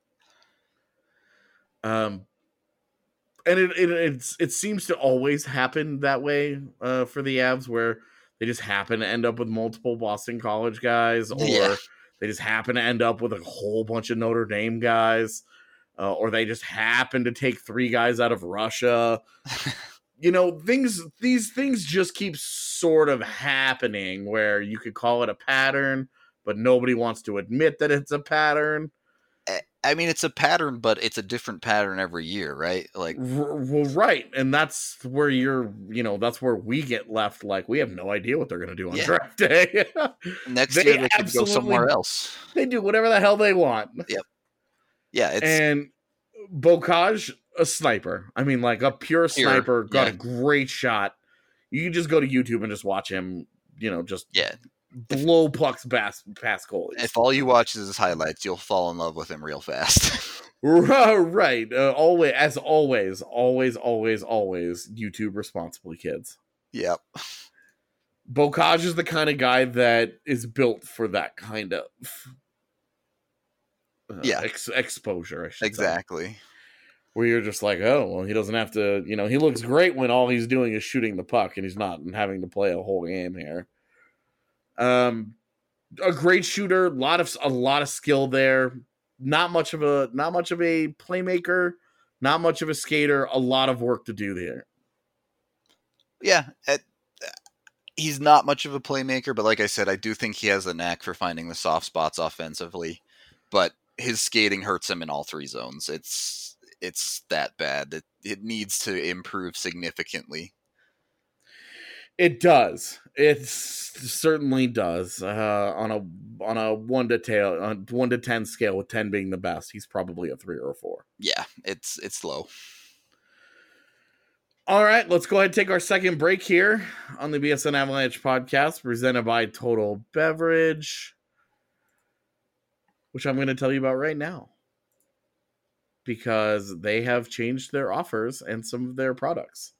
Um, and it it it's, it seems to always happen that way uh, for the Avs, where they just happen to end up with multiple Boston College guys, or yeah. they just happen to end up with a whole bunch of Notre Dame guys, uh, or they just happen to take three guys out of Russia. You know, things these things just keep sort of happening where you could call it a pattern, but nobody wants to admit that it's a pattern. I mean, it's a pattern, but it's a different pattern every year, right? Like, well, right. And that's where you're, you know, that's where we get left. Like, we have no idea what they're going to do on yeah. draft day. Next they year, they could go somewhere else. They do whatever the hell they want. Yep. Yeah, it's and Bocage, a sniper. I mean, like a pure Pure, sniper, got yeah. a great shot. You can just go to YouTube and just watch him, you know, just yeah. blow pucks past, past goalies. If all you watch is his highlights, you'll fall in love with him real fast. Right. Uh, always, as always, always, always, always, YouTube responsibly, kids. Yep. Bocage is the kind of guy that is built for that kind of uh, Yeah. ex- exposure. I should say. Exactly. Where you're just like, oh, well, he doesn't have to, you know, he looks great when all he's doing is shooting the puck and he's not having to play a whole game here. Um, a great shooter, lot of a lot of skill there. Not much of a not much of a playmaker, not much of a skater. A lot of work to do there. Yeah, it, he's not much of a playmaker, but like I said, I do think he has a knack for finding the soft spots offensively. But his skating hurts him in all three zones. It's it's that bad. It it needs to improve significantly. It does. It certainly does. Uh, on a on a one to tail on one to ten scale, with ten being the best, he's probably a three or a four. Yeah, it's it's low. All right, let's go ahead and take our second break here on the B S N Avalanche podcast, presented by Total Beverage, which I'm going to tell you about right now, because they have changed their offers and some of their products.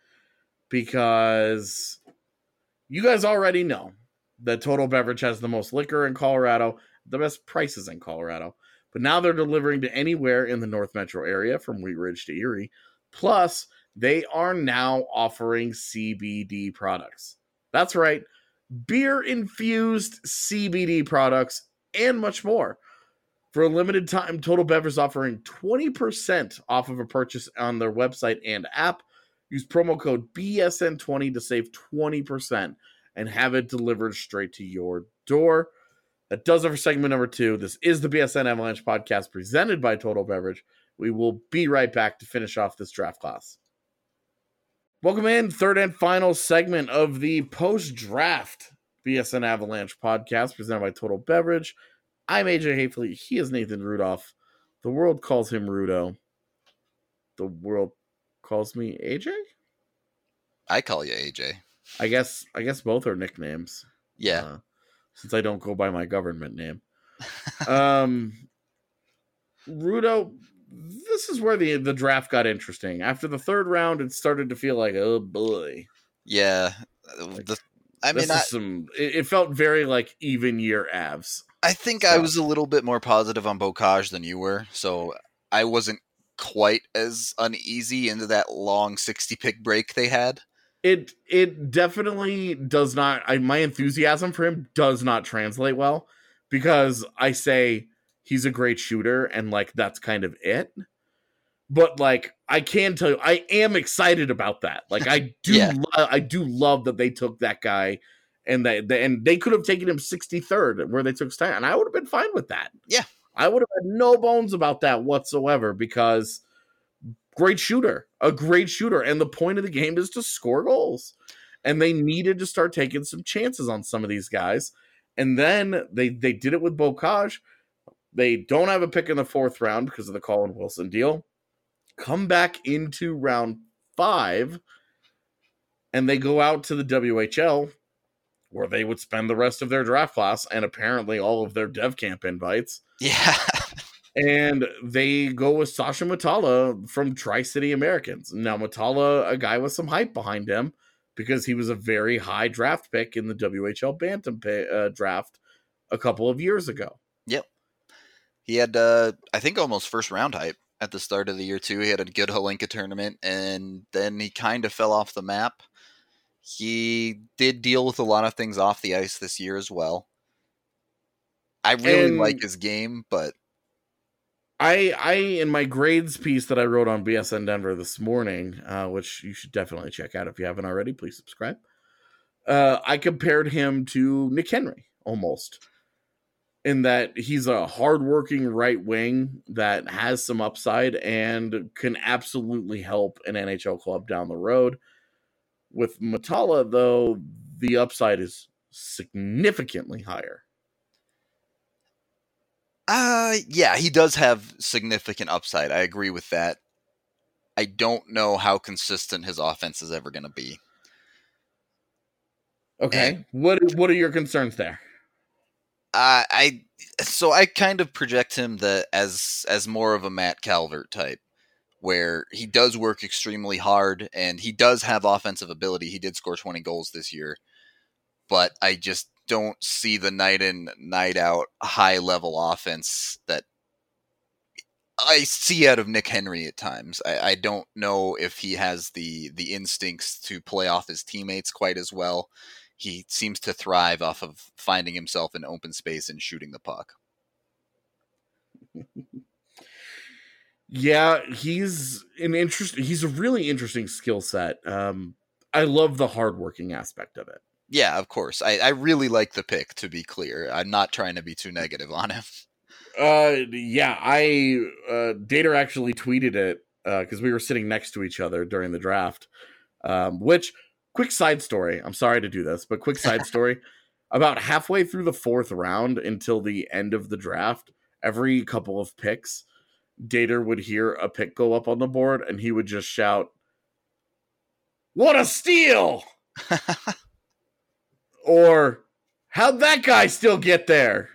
Because you guys already know that Total Beverage has the most liquor in Colorado, the best prices in Colorado. But now they're delivering to anywhere in the North Metro area, from Wheat Ridge to Erie. Plus, they are now offering C B D products. That's right, beer-infused C B D products and much more. For a limited time, Total Beverage is offering twenty percent off of a purchase on their website and app. Use promo code B S N twenty to save twenty percent and have it delivered straight to your door. That does it for segment number two. This is the B S N Avalanche podcast presented by Total Beverage. We will be right back to finish off this draft class. Welcome in, third and final segment of the post-draft B S N Avalanche podcast presented by Total Beverage. I'm A J Hafley. He is Nathan Rudolph. The world calls him Rudo. The world calls me A J? I call you A J. I guess I guess both are nicknames. Yeah. Uh, since I don't go by my government name. um, Rudo, this is where the the draft got interesting. After the third round, it started to feel like, oh boy. Yeah. Like, the, I this mean, is I, some. It, it felt very like even year Avs. I think stuff. I was a little bit more positive on Bocage than you were, so I wasn't quite as uneasy into that long sixty pick break they had. It it definitely does not. I, my enthusiasm for him does not translate well, because I say he's a great shooter and like that's kind of it. But like I can tell you, I am excited about that. Like I do, Yeah. lo- I do love that they took that guy, and they, they and they could have taken him sixty-third where they took Stein, and I would have been fine with that. Yeah. I would have had no bones about that whatsoever, because great shooter, a great shooter. And the point of the game is to score goals. And they needed to start taking some chances on some of these guys. And then they, they did it with Bocage. They don't have a pick in the fourth round because of the Colin Wilson deal. Come back into round five, and they go out to the W H L, where they would spend the rest of their draft class and apparently all of their dev camp invites. Yeah. And they go with Sasha Matala from Tri-City Americans. Now, Matala, a guy with some hype behind him, because he was a very high draft pick in the W H L Bantam pay, uh, draft a couple of years ago. Yep. He had, uh, I think, almost first round hype at the start of the year, too. He had a good Holinka tournament, and then he kind of fell off the map. He did deal with a lot of things off the ice this year as well. I really And like his game, but I, I, in my grades piece that I wrote on B S N Denver this morning, uh, which you should definitely check out if you haven't already, please subscribe. Uh, I compared him to Nick Henry almost, in that he's a hardworking right wing that has some upside and can absolutely help an N H L club down the road. With Matala, though, the upside is significantly higher. Uh, yeah, he does have significant upside. I agree with that. I don't know how consistent his offense is ever going to be. Okay. And, what What are your concerns there? uh, I so I kind of project him the as as more of a Matt Calvert type, where he does work extremely hard and he does have offensive ability. He did score twenty goals this year, but I just don't see the night in, night out high level offense that I see out of Nick Henry at times. I, I don't know if he has the the instincts to play off his teammates quite as well. He seems to thrive off of finding himself in open space and shooting the puck. Yeah, he's an interest. He's a really interesting skill set. Um, I love the hardworking aspect of it. Yeah, of course. I, I really like the pick, to be clear. I'm not trying to be too negative on him. Uh, yeah, I uh, Dater actually tweeted it because uh, we were sitting next to each other during the draft. Um, which, quick side story. I'm sorry to do this, but quick side story. About halfway through the fourth round until the end of the draft, every couple of picks, Dater would hear a pick go up on the board, and he would just shout, "What a steal!" Or, "How'd that guy still get there?"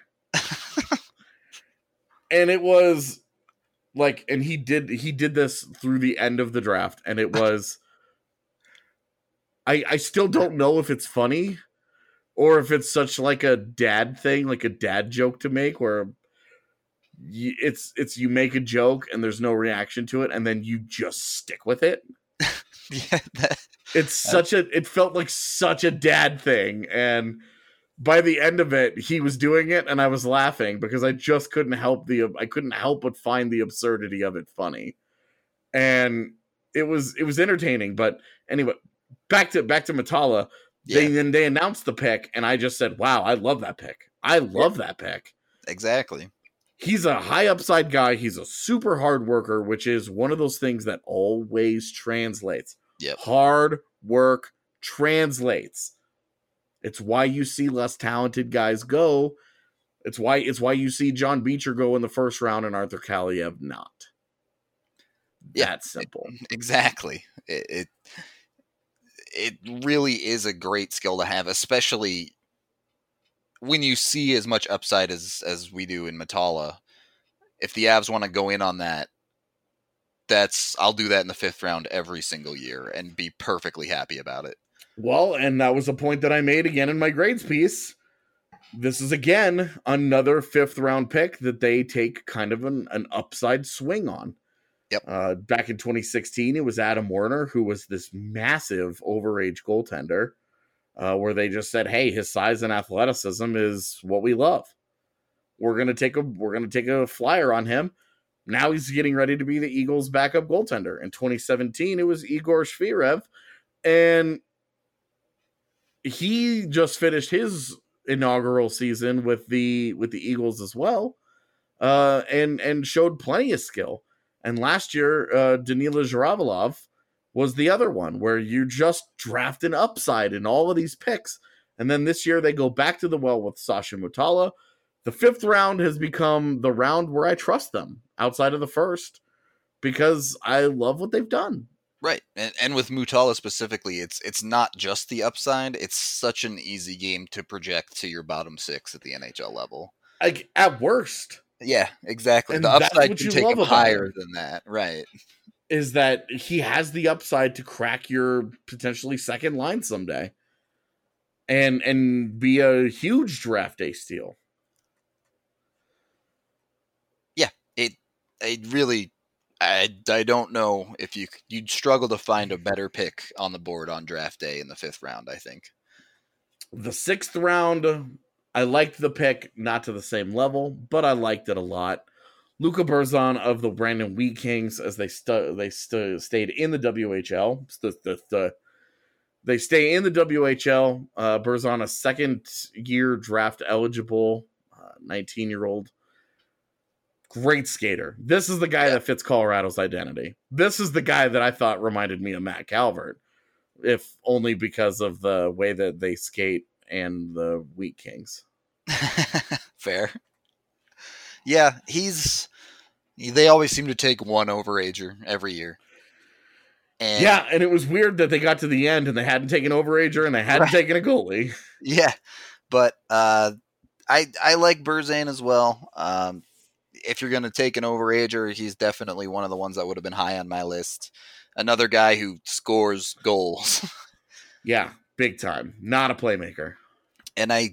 And it was like, and he did he did this through the end of the draft, and it was, I I still don't know if it's funny or if it's such like a dad thing, like a dad joke to make, where you, it's it's you make a joke and there's no reaction to it, and then you just stick with it. Yeah, that, it's such a it felt like such a dad thing, and by the end of it, he was doing it, and I was laughing because I just couldn't help the I couldn't help but find the absurdity of it funny, and it was it was entertaining. But anyway, back to back to Matala. yeah, They then they announced the pick, and I just said, "Wow, I love that pick. I love yeah. that pick." Exactly. He's a high upside guy. He's a super hard worker, which is one of those things that always translates. Yep. Hard work translates. It's why you see less talented guys go. It's why it's why you see John Beecher go in the first round and Arthur Kaliev not. Yeah, That's simple. It, exactly. It, it it really is a great skill to have, especially when you see as much upside as as we do in Matala. If the Avs want to go in on that, that's I'll do that in the fifth round every single year and be perfectly happy about it. Well, and that was a point that I made again in my grades piece. This is, again, another fifth round pick that they take kind of an, an upside swing on. Yep. Uh, back in twenty sixteen, it was Adam Werner, who was this massive overage goaltender, uh, where they just said, "Hey, his size and athleticism is what we love. We're gonna take a we're gonna take a flyer on him." Now he's getting ready to be the Eagles' backup goaltender. In twenty seventeen, it was Igor Shvirev, and he just finished his inaugural season with the with the Eagles as well, uh, and and showed plenty of skill. And last year, uh, Danila Zhiravalov was the other one, where you just draft an upside in all of these picks. And then this year they go back to the well with Sasha Mutala. The fifth round has become the round where I trust them outside of the first, because I love what they've done. Right. And and with Mutala specifically, it's it's not just the upside. It's such an easy game to project to your bottom six at the N H L level. Like, at worst. Yeah, exactly. And the upside can take him higher him. than that. Right. Is that he has the upside to crack your potentially second line someday. And and be a huge draft day steal. Yeah. It it really I, I don't know if you you'd struggle to find a better pick on the board on draft day in the fifth round, I think. The sixth round, I liked the pick, not to the same level, but I liked it a lot. Luca Berzon of the Brandon Wheat Kings, as they stu- they stu- stayed in the W H L. The, the, the, they stay in the W H L. Uh, Berzon, a second-year draft eligible, uh, nineteen-year-old. Great skater. This is the guy yeah. that fits Colorado's identity. This is the guy that I thought reminded me of Matt Calvert, if only because of the way that they skate and the Wheat Kings. Fair. Yeah, he's. They always seem to take one overager every year. And yeah, and it was weird that they got to the end and they hadn't taken overager and they hadn't right. taken a goalie. Yeah, but uh, I I like Berzan as well. Um, if you're going to take an overager, he's definitely one of the ones that would have been high on my list. Another guy who scores goals. Yeah, big time. Not a playmaker. And I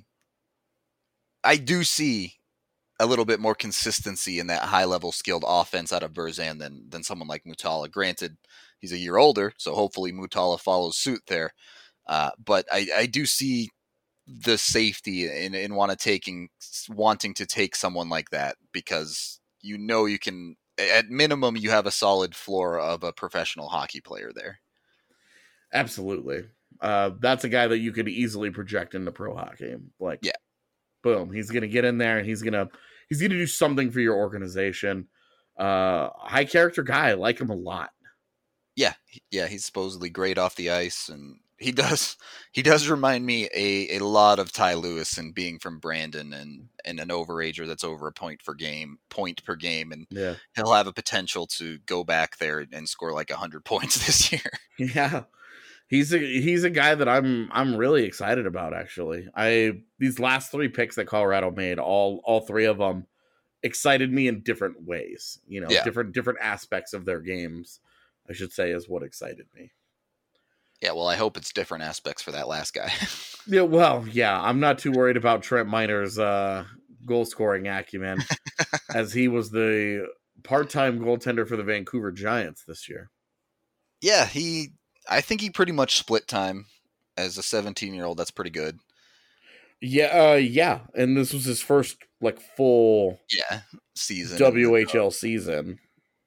I do see a little bit more consistency in that high-level skilled offense out of Berzan than than someone like Mutala. Granted, he's a year older, so hopefully Mutala follows suit there. Uh, but I, I do see the safety in, in want to taking wanting to take someone like that, because you know you can, at minimum, you have a solid floor of a professional hockey player there. Absolutely. Uh, that's a guy that you could easily project into pro hockey. Like, yeah, boom, he's gonna get in there and he's gonna he's gonna do something for your organization. Uh, high character guy, I like him a lot. Yeah, yeah, he's supposedly great off the ice, and he does he does remind me a, a lot of Ty Lewis, and being from Brandon, and, and an overager that's over a point per game, point per game, and yeah. he'll have a potential to go back there and score like a hundred points this year. Yeah, he's a he's a guy that I'm I'm really excited about. Actually, I these last three picks that Colorado made, all all three of them excited me in different ways. You know, yeah. different different aspects of their games, I should say, is what excited me. Yeah, well, I hope it's different aspects for that last guy. Yeah, well, yeah, I'm not too worried about Trent Miner's uh, goal-scoring acumen, as he was the part-time goaltender for the Vancouver Giants this year. Yeah, he. I think he pretty much split time as a seventeen-year-old. That's pretty good. Yeah, uh, yeah, and this was his first like full yeah season W H L season.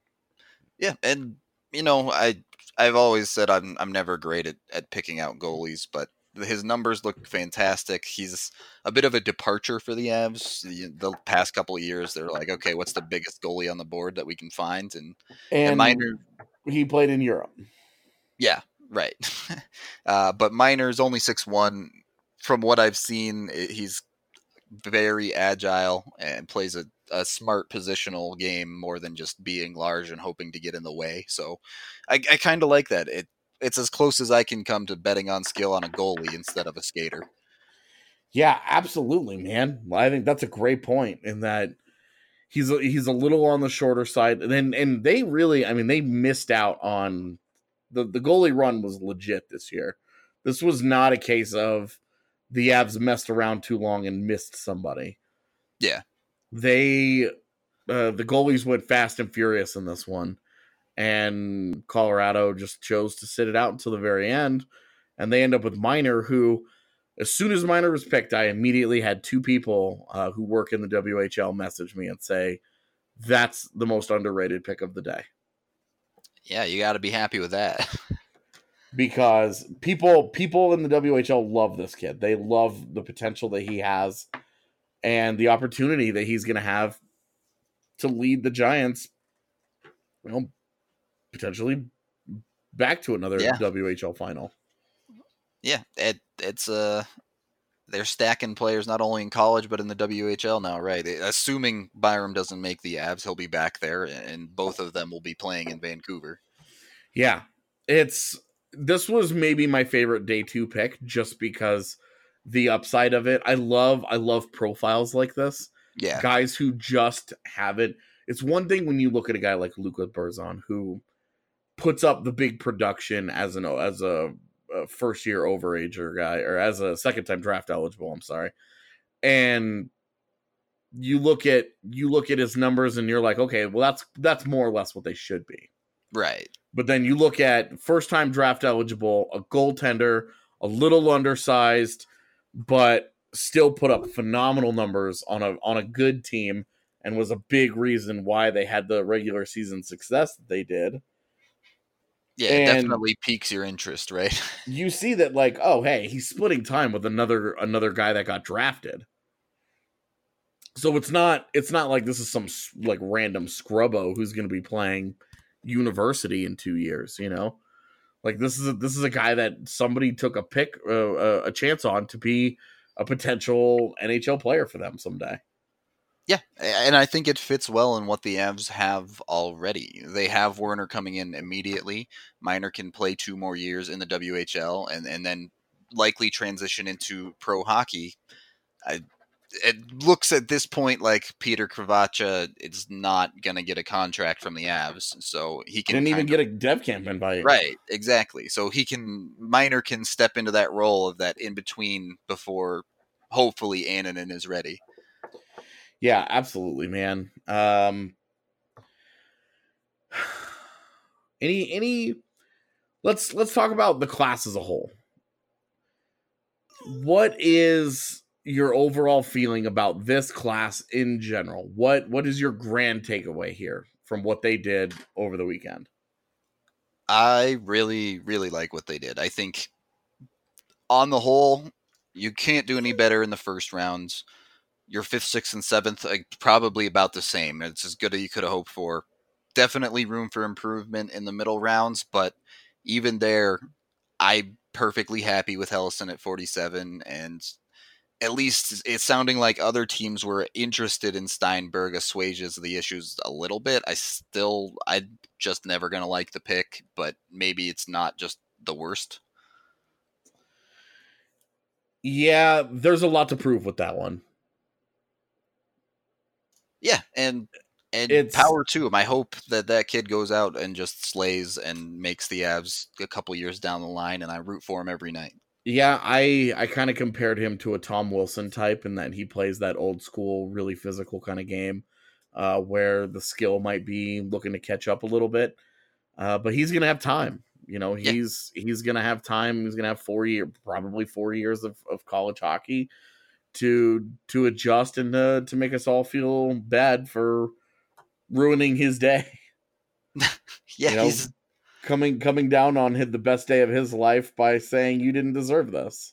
Yeah, and you know, I I've always said I'm I'm never great at, at picking out goalies, but his numbers look fantastic. He's a bit of a departure for the Avs. The, the past couple of years, they're like, okay, what's the biggest goalie on the board that we can find? And and, and Miner, he played in Europe. Yeah, right. uh, but Miner's only six one. From what I've seen, he's very agile and plays a, a smart positional game more than just being large and hoping to get in the way. So I, I kind of like that. It It's as close as I can come to betting on skill on a goalie instead of a skater. Yeah, absolutely, man. I think that's a great point in that he's a, he's a little on the shorter side. And then and they really, I mean, they missed out on the the goalie run was legit this year. This was not a case of the Avs messed around too long and missed somebody. Yeah. They, uh, the goalies went fast and furious in this one, and Colorado just chose to sit it out until the very end, and they end up with Miner, who, as soon as Miner was picked, I immediately had two people uh, who work in the W H L message me and say, that's the most underrated pick of the day. Yeah, you got to be happy with that. Because people people in the W H L love this kid. They love the potential that he has and the opportunity that he's going to have to lead the Giants, you know, potentially back to another yeah. W H L final. Yeah, it, it's uh, they're stacking players not only in college but in the W H L now, right? Assuming Byram doesn't make the Avs, he'll be back there, and both of them will be playing in Vancouver. Yeah, it's... This was maybe my favorite day two pick just because the upside of it. I love, I love profiles like this. Yeah. Guys who just have it. It's one thing when you look at a guy like Luka Berzon who puts up the big production as an, as a, a first year overager guy, or as a second time draft eligible. I'm sorry. And you look at, you look at his numbers and you're like, okay, well that's, that's more or less what they should be. Right. But then you look at first-time draft eligible, a goaltender, a little undersized, but still put up phenomenal numbers on a on a good team, and was a big reason why they had the regular season success that they did. Yeah, it and definitely piques your interest, right? You see that, like, oh, hey, he's splitting time with another another guy that got drafted. So it's not it's not like this is some like random scrubbo who's going to be playing university in two years, you know, like this is a, this is a guy that somebody took a pick, uh, a chance on to be a potential N H L player for them someday. Yeah, and I think it fits well in what the Avs have already. They have Werner coming in immediately. Miner can play two more years in the W H L and, and then likely transition into pro hockey. I, it looks at this point like Peter Kravacha is not going to get a contract from the Avs, so he can Didn't even kind get of, a dev camp invite. right, exactly. So he can Miner can step into that role of that in between before hopefully Annunen is ready. Yeah, absolutely, man. Um, any any let's let's talk about the class as a whole. What is your overall feeling about this class in general? What what is your grand takeaway here from what they did over the weekend? I really, really like what they did. I think on the whole, you can't do any better in the first rounds. Your fifth, sixth, and seventh, like, probably about the same. It's as good as you could have hoped for. Definitely room for improvement in the middle rounds, but even there, I'm perfectly happy with Helleson at forty-seven, and at least it's sounding like other teams were interested in Steinberg assuages the issues a little bit. I still, I'm just never going to like the pick, but maybe it's not just the worst. Yeah, there's a lot to prove with that one. Yeah, and and It's- power to him. I hope that that kid goes out and just slays and makes the Avs a couple years down the line, and I root for him every night. Yeah, I I kind of compared him to a Tom Wilson type in that he plays that old school, really physical kind of game, uh, where the skill might be looking to catch up a little bit, uh, but he's gonna have time. You know, Yeah. he's he's gonna have time. He's gonna have four year, probably four years of, of college hockey to to adjust and to, to make us all feel bad for ruining his day. Yeah, You know, he's coming coming down on his, the best day of his life by saying you didn't deserve this.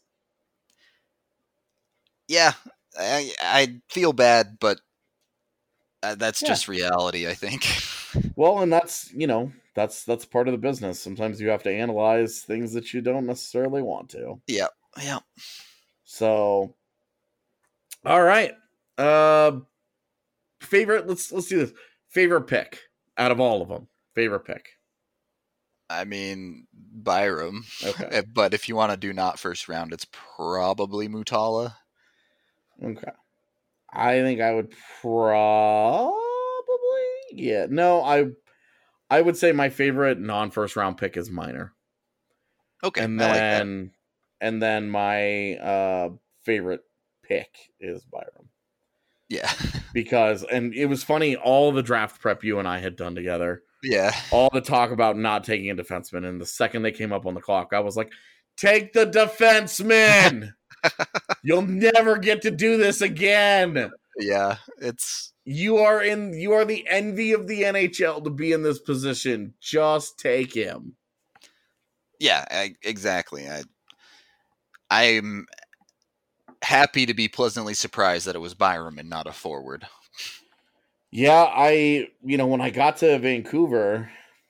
yeah. I I feel bad, but uh, that's Yeah. just reality, I think. Well, and that's, you know, that's that's part of the business. Sometimes you have to analyze things that you don't necessarily want to. yeah, yeah. So, all right. Uh favorite, let's let's do this. Favorite pick out of all of them. Favorite pick. I mean, Byram. Okay. But if you want to do not first round, it's probably Mutala. Okay. I think I would probably, yeah. No, I I would say my favorite non-first round pick is Miner. Okay, And I like that. then and then my uh favorite pick is Byram. Yeah. Because, and it was funny, all the draft prep you and I had done together, Yeah. all the talk about not taking a defenseman, and the second they came up on the clock, I was like, take the defenseman! You'll never get to do this again! Yeah, it's You are in you are the envy of the N H L to be in this position. Just take him. yeah, I, exactly. I I'm happy to be pleasantly surprised that it was Byram and not a forward. Yeah, I you know, when I got to Vancouver,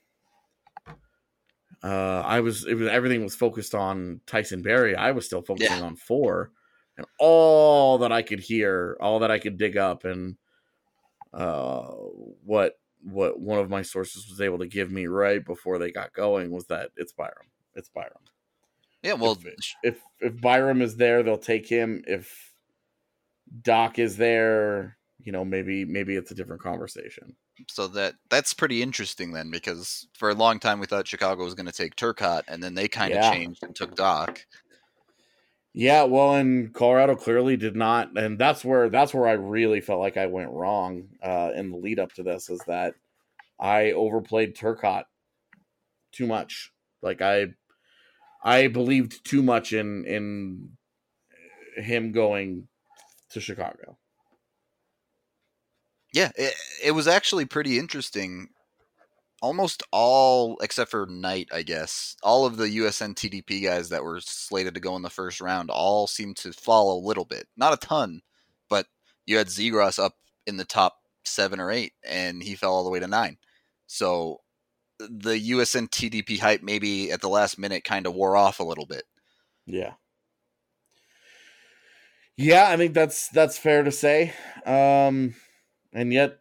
uh I was it was everything was focused on Tyson Barrie. I was still focusing Yeah. on four. And all that I could hear, all that I could dig up, and uh what what one of my sources was able to give me right before they got going was that it's Byram. It's Byram. Yeah, well, if, if if Byram is there, they'll take him. If Doc is there, you know, maybe maybe it's a different conversation. so that that's pretty interesting then, because for a long time we thought Chicago was going to take Turcotte, and then they kind of Yeah. changed and took Doc. Yeah, well, and Colorado clearly did not, and that's where that's where I really felt like I went wrong uh, in the lead up to this, is that I overplayed Turcotte too much. Like I, I believed too much in in him going to Chicago. Yeah, it, it was actually pretty interesting. Almost all, except for Knight, I guess, all of the U S N T D P guys that were slated to go in the first round all seemed to fall a little bit. Not a ton, but you had Zegras up in the top seven or eight, and he fell all the way to nine. So the U S N T D P hype maybe at the last minute kind of wore off a little bit. Yeah. Yeah, I think that's that's fair to say. Um, And yet,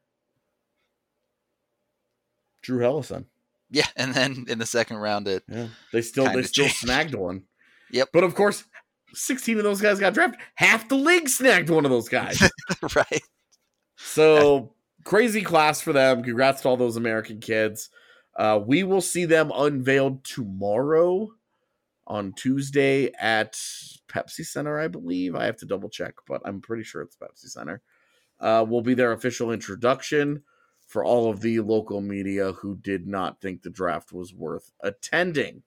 Drew Hellison. Yeah, and then in the second round, it yeah, they still they still changed. snagged one. Yep. But of course, sixteen of those guys got drafted. Half the league snagged one of those guys. Right. So crazy class for them. Congrats to all those American kids. Uh, we will see them unveiled tomorrow on Tuesday at Pepsi Center, I believe. I have to double check, but I'm pretty sure it's Pepsi Center. Uh, will be their official introduction for all of the local media who did not think the draft was worth attending.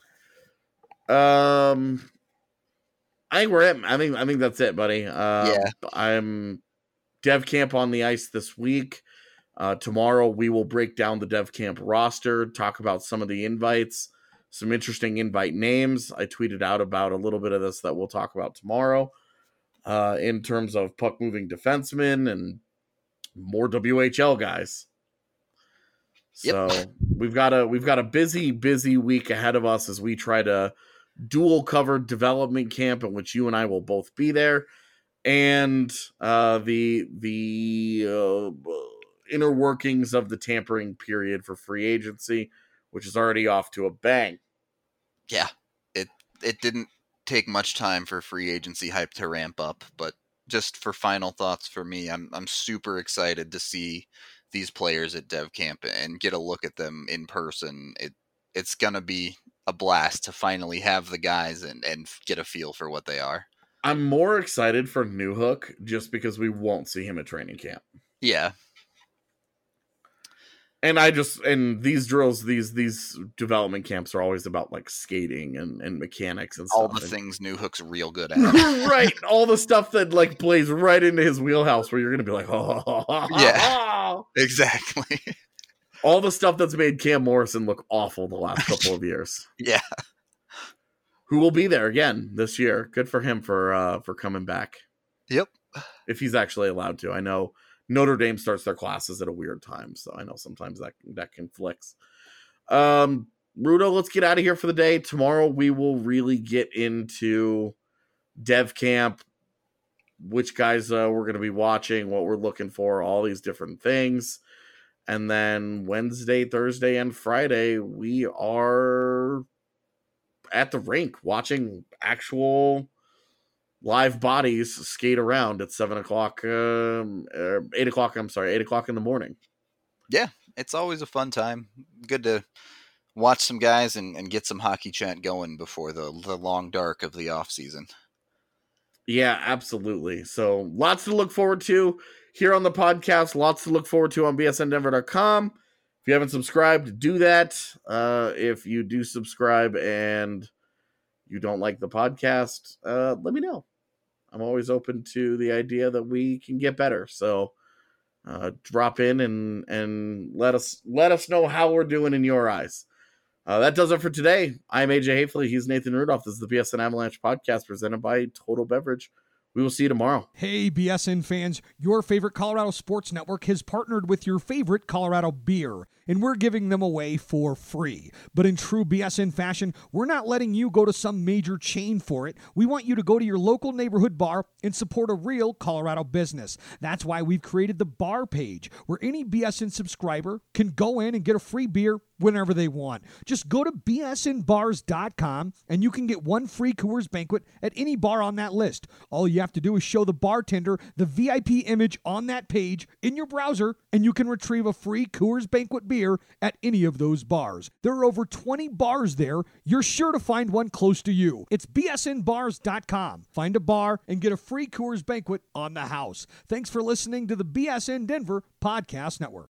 Um, I think we're at, I think, I think that's it, buddy. Uh, yeah. I'm Dev Camp on the ice this week. Uh, tomorrow we will break down the Dev Camp roster, talk about some of the invites, some interesting invite names. I tweeted out about a little bit of this that we'll talk about tomorrow uh, in terms of puck moving defensemen and more W H L guys. So yep. we've got a we've got a busy, busy week ahead of us as we try to dual cover development camp in which you and I will both be there, and uh, the the uh, inner workings of the tampering period for free agency, which is already off to a bang. Yeah, it it didn't take much time for free agency hype to ramp up, but just for final thoughts for me, I'm I'm super excited to see these players at Dev Camp and get a look at them in person. It it's gonna be a blast to finally have the guys and, and get a feel for what they are. I'm more excited for Newhook just because we won't see him at training camp. Yeah. And I just, and these drills, these these development camps are always about like skating and, and mechanics and stuff. All the and, things Newhook's real good at. Right. All the stuff that like plays right into his wheelhouse where you're going to be like, oh, yeah, exactly. All the stuff that's made Cam Morrison look awful the last couple of years. Yeah. Who will be there again this year. Good for him for uh, for coming back. Yep. If he's actually allowed to. I know Notre Dame starts their classes at a weird time, so I know sometimes that that conflicts. Um, Rudo, let's get out of here for the day. Tomorrow we will really get into Dev Camp, which guys uh, we're going to be watching, what we're looking for, all these different things. And then Wednesday, Thursday, and Friday, we are at the rink watching actual live bodies skate around at seven o'clock, um, uh, eight o'clock. I'm sorry, eight o'clock in the morning. Yeah, it's always a fun time. Good to watch some guys and, and get some hockey chat going before the the long dark of the off season. Yeah, absolutely. So lots to look forward to here on the podcast. Lots to look forward to on B S N Denver dot com. If you haven't subscribed, do that. Uh, if you do subscribe and you don't like the podcast, uh, let me know. I'm always open to the idea that we can get better. So uh, drop in and and let us let us know how we're doing in your eyes. Uh, that does it for today. I'm A J Hafley. He's Nathan Rudolph. This is the B S N Avalanche podcast presented by Total Beverage. We will see you tomorrow. Hey, B S N fans, your favorite Colorado Sports Network has partnered with your favorite Colorado beer, and we're giving them away for free. But in true B S N fashion, we're not letting you go to some major chain for it. We want you to go to your local neighborhood bar and support a real Colorado business. That's why we've created the bar page, where any B S N subscriber can go in and get a free beer whenever they want. Just go to B S N bars dot com and you can get one free Coors Banquet at any bar on that list. All you have to do is show the bartender the V I P image on that page in your browser, and you can retrieve a free Coors Banquet beer at any of those bars. There are over twenty bars there. You're sure to find one close to you. It's B S N bars dot com. Find a bar and get a free Coors Banquet on the house. Thanks for listening to the B S N Denver Podcast Network.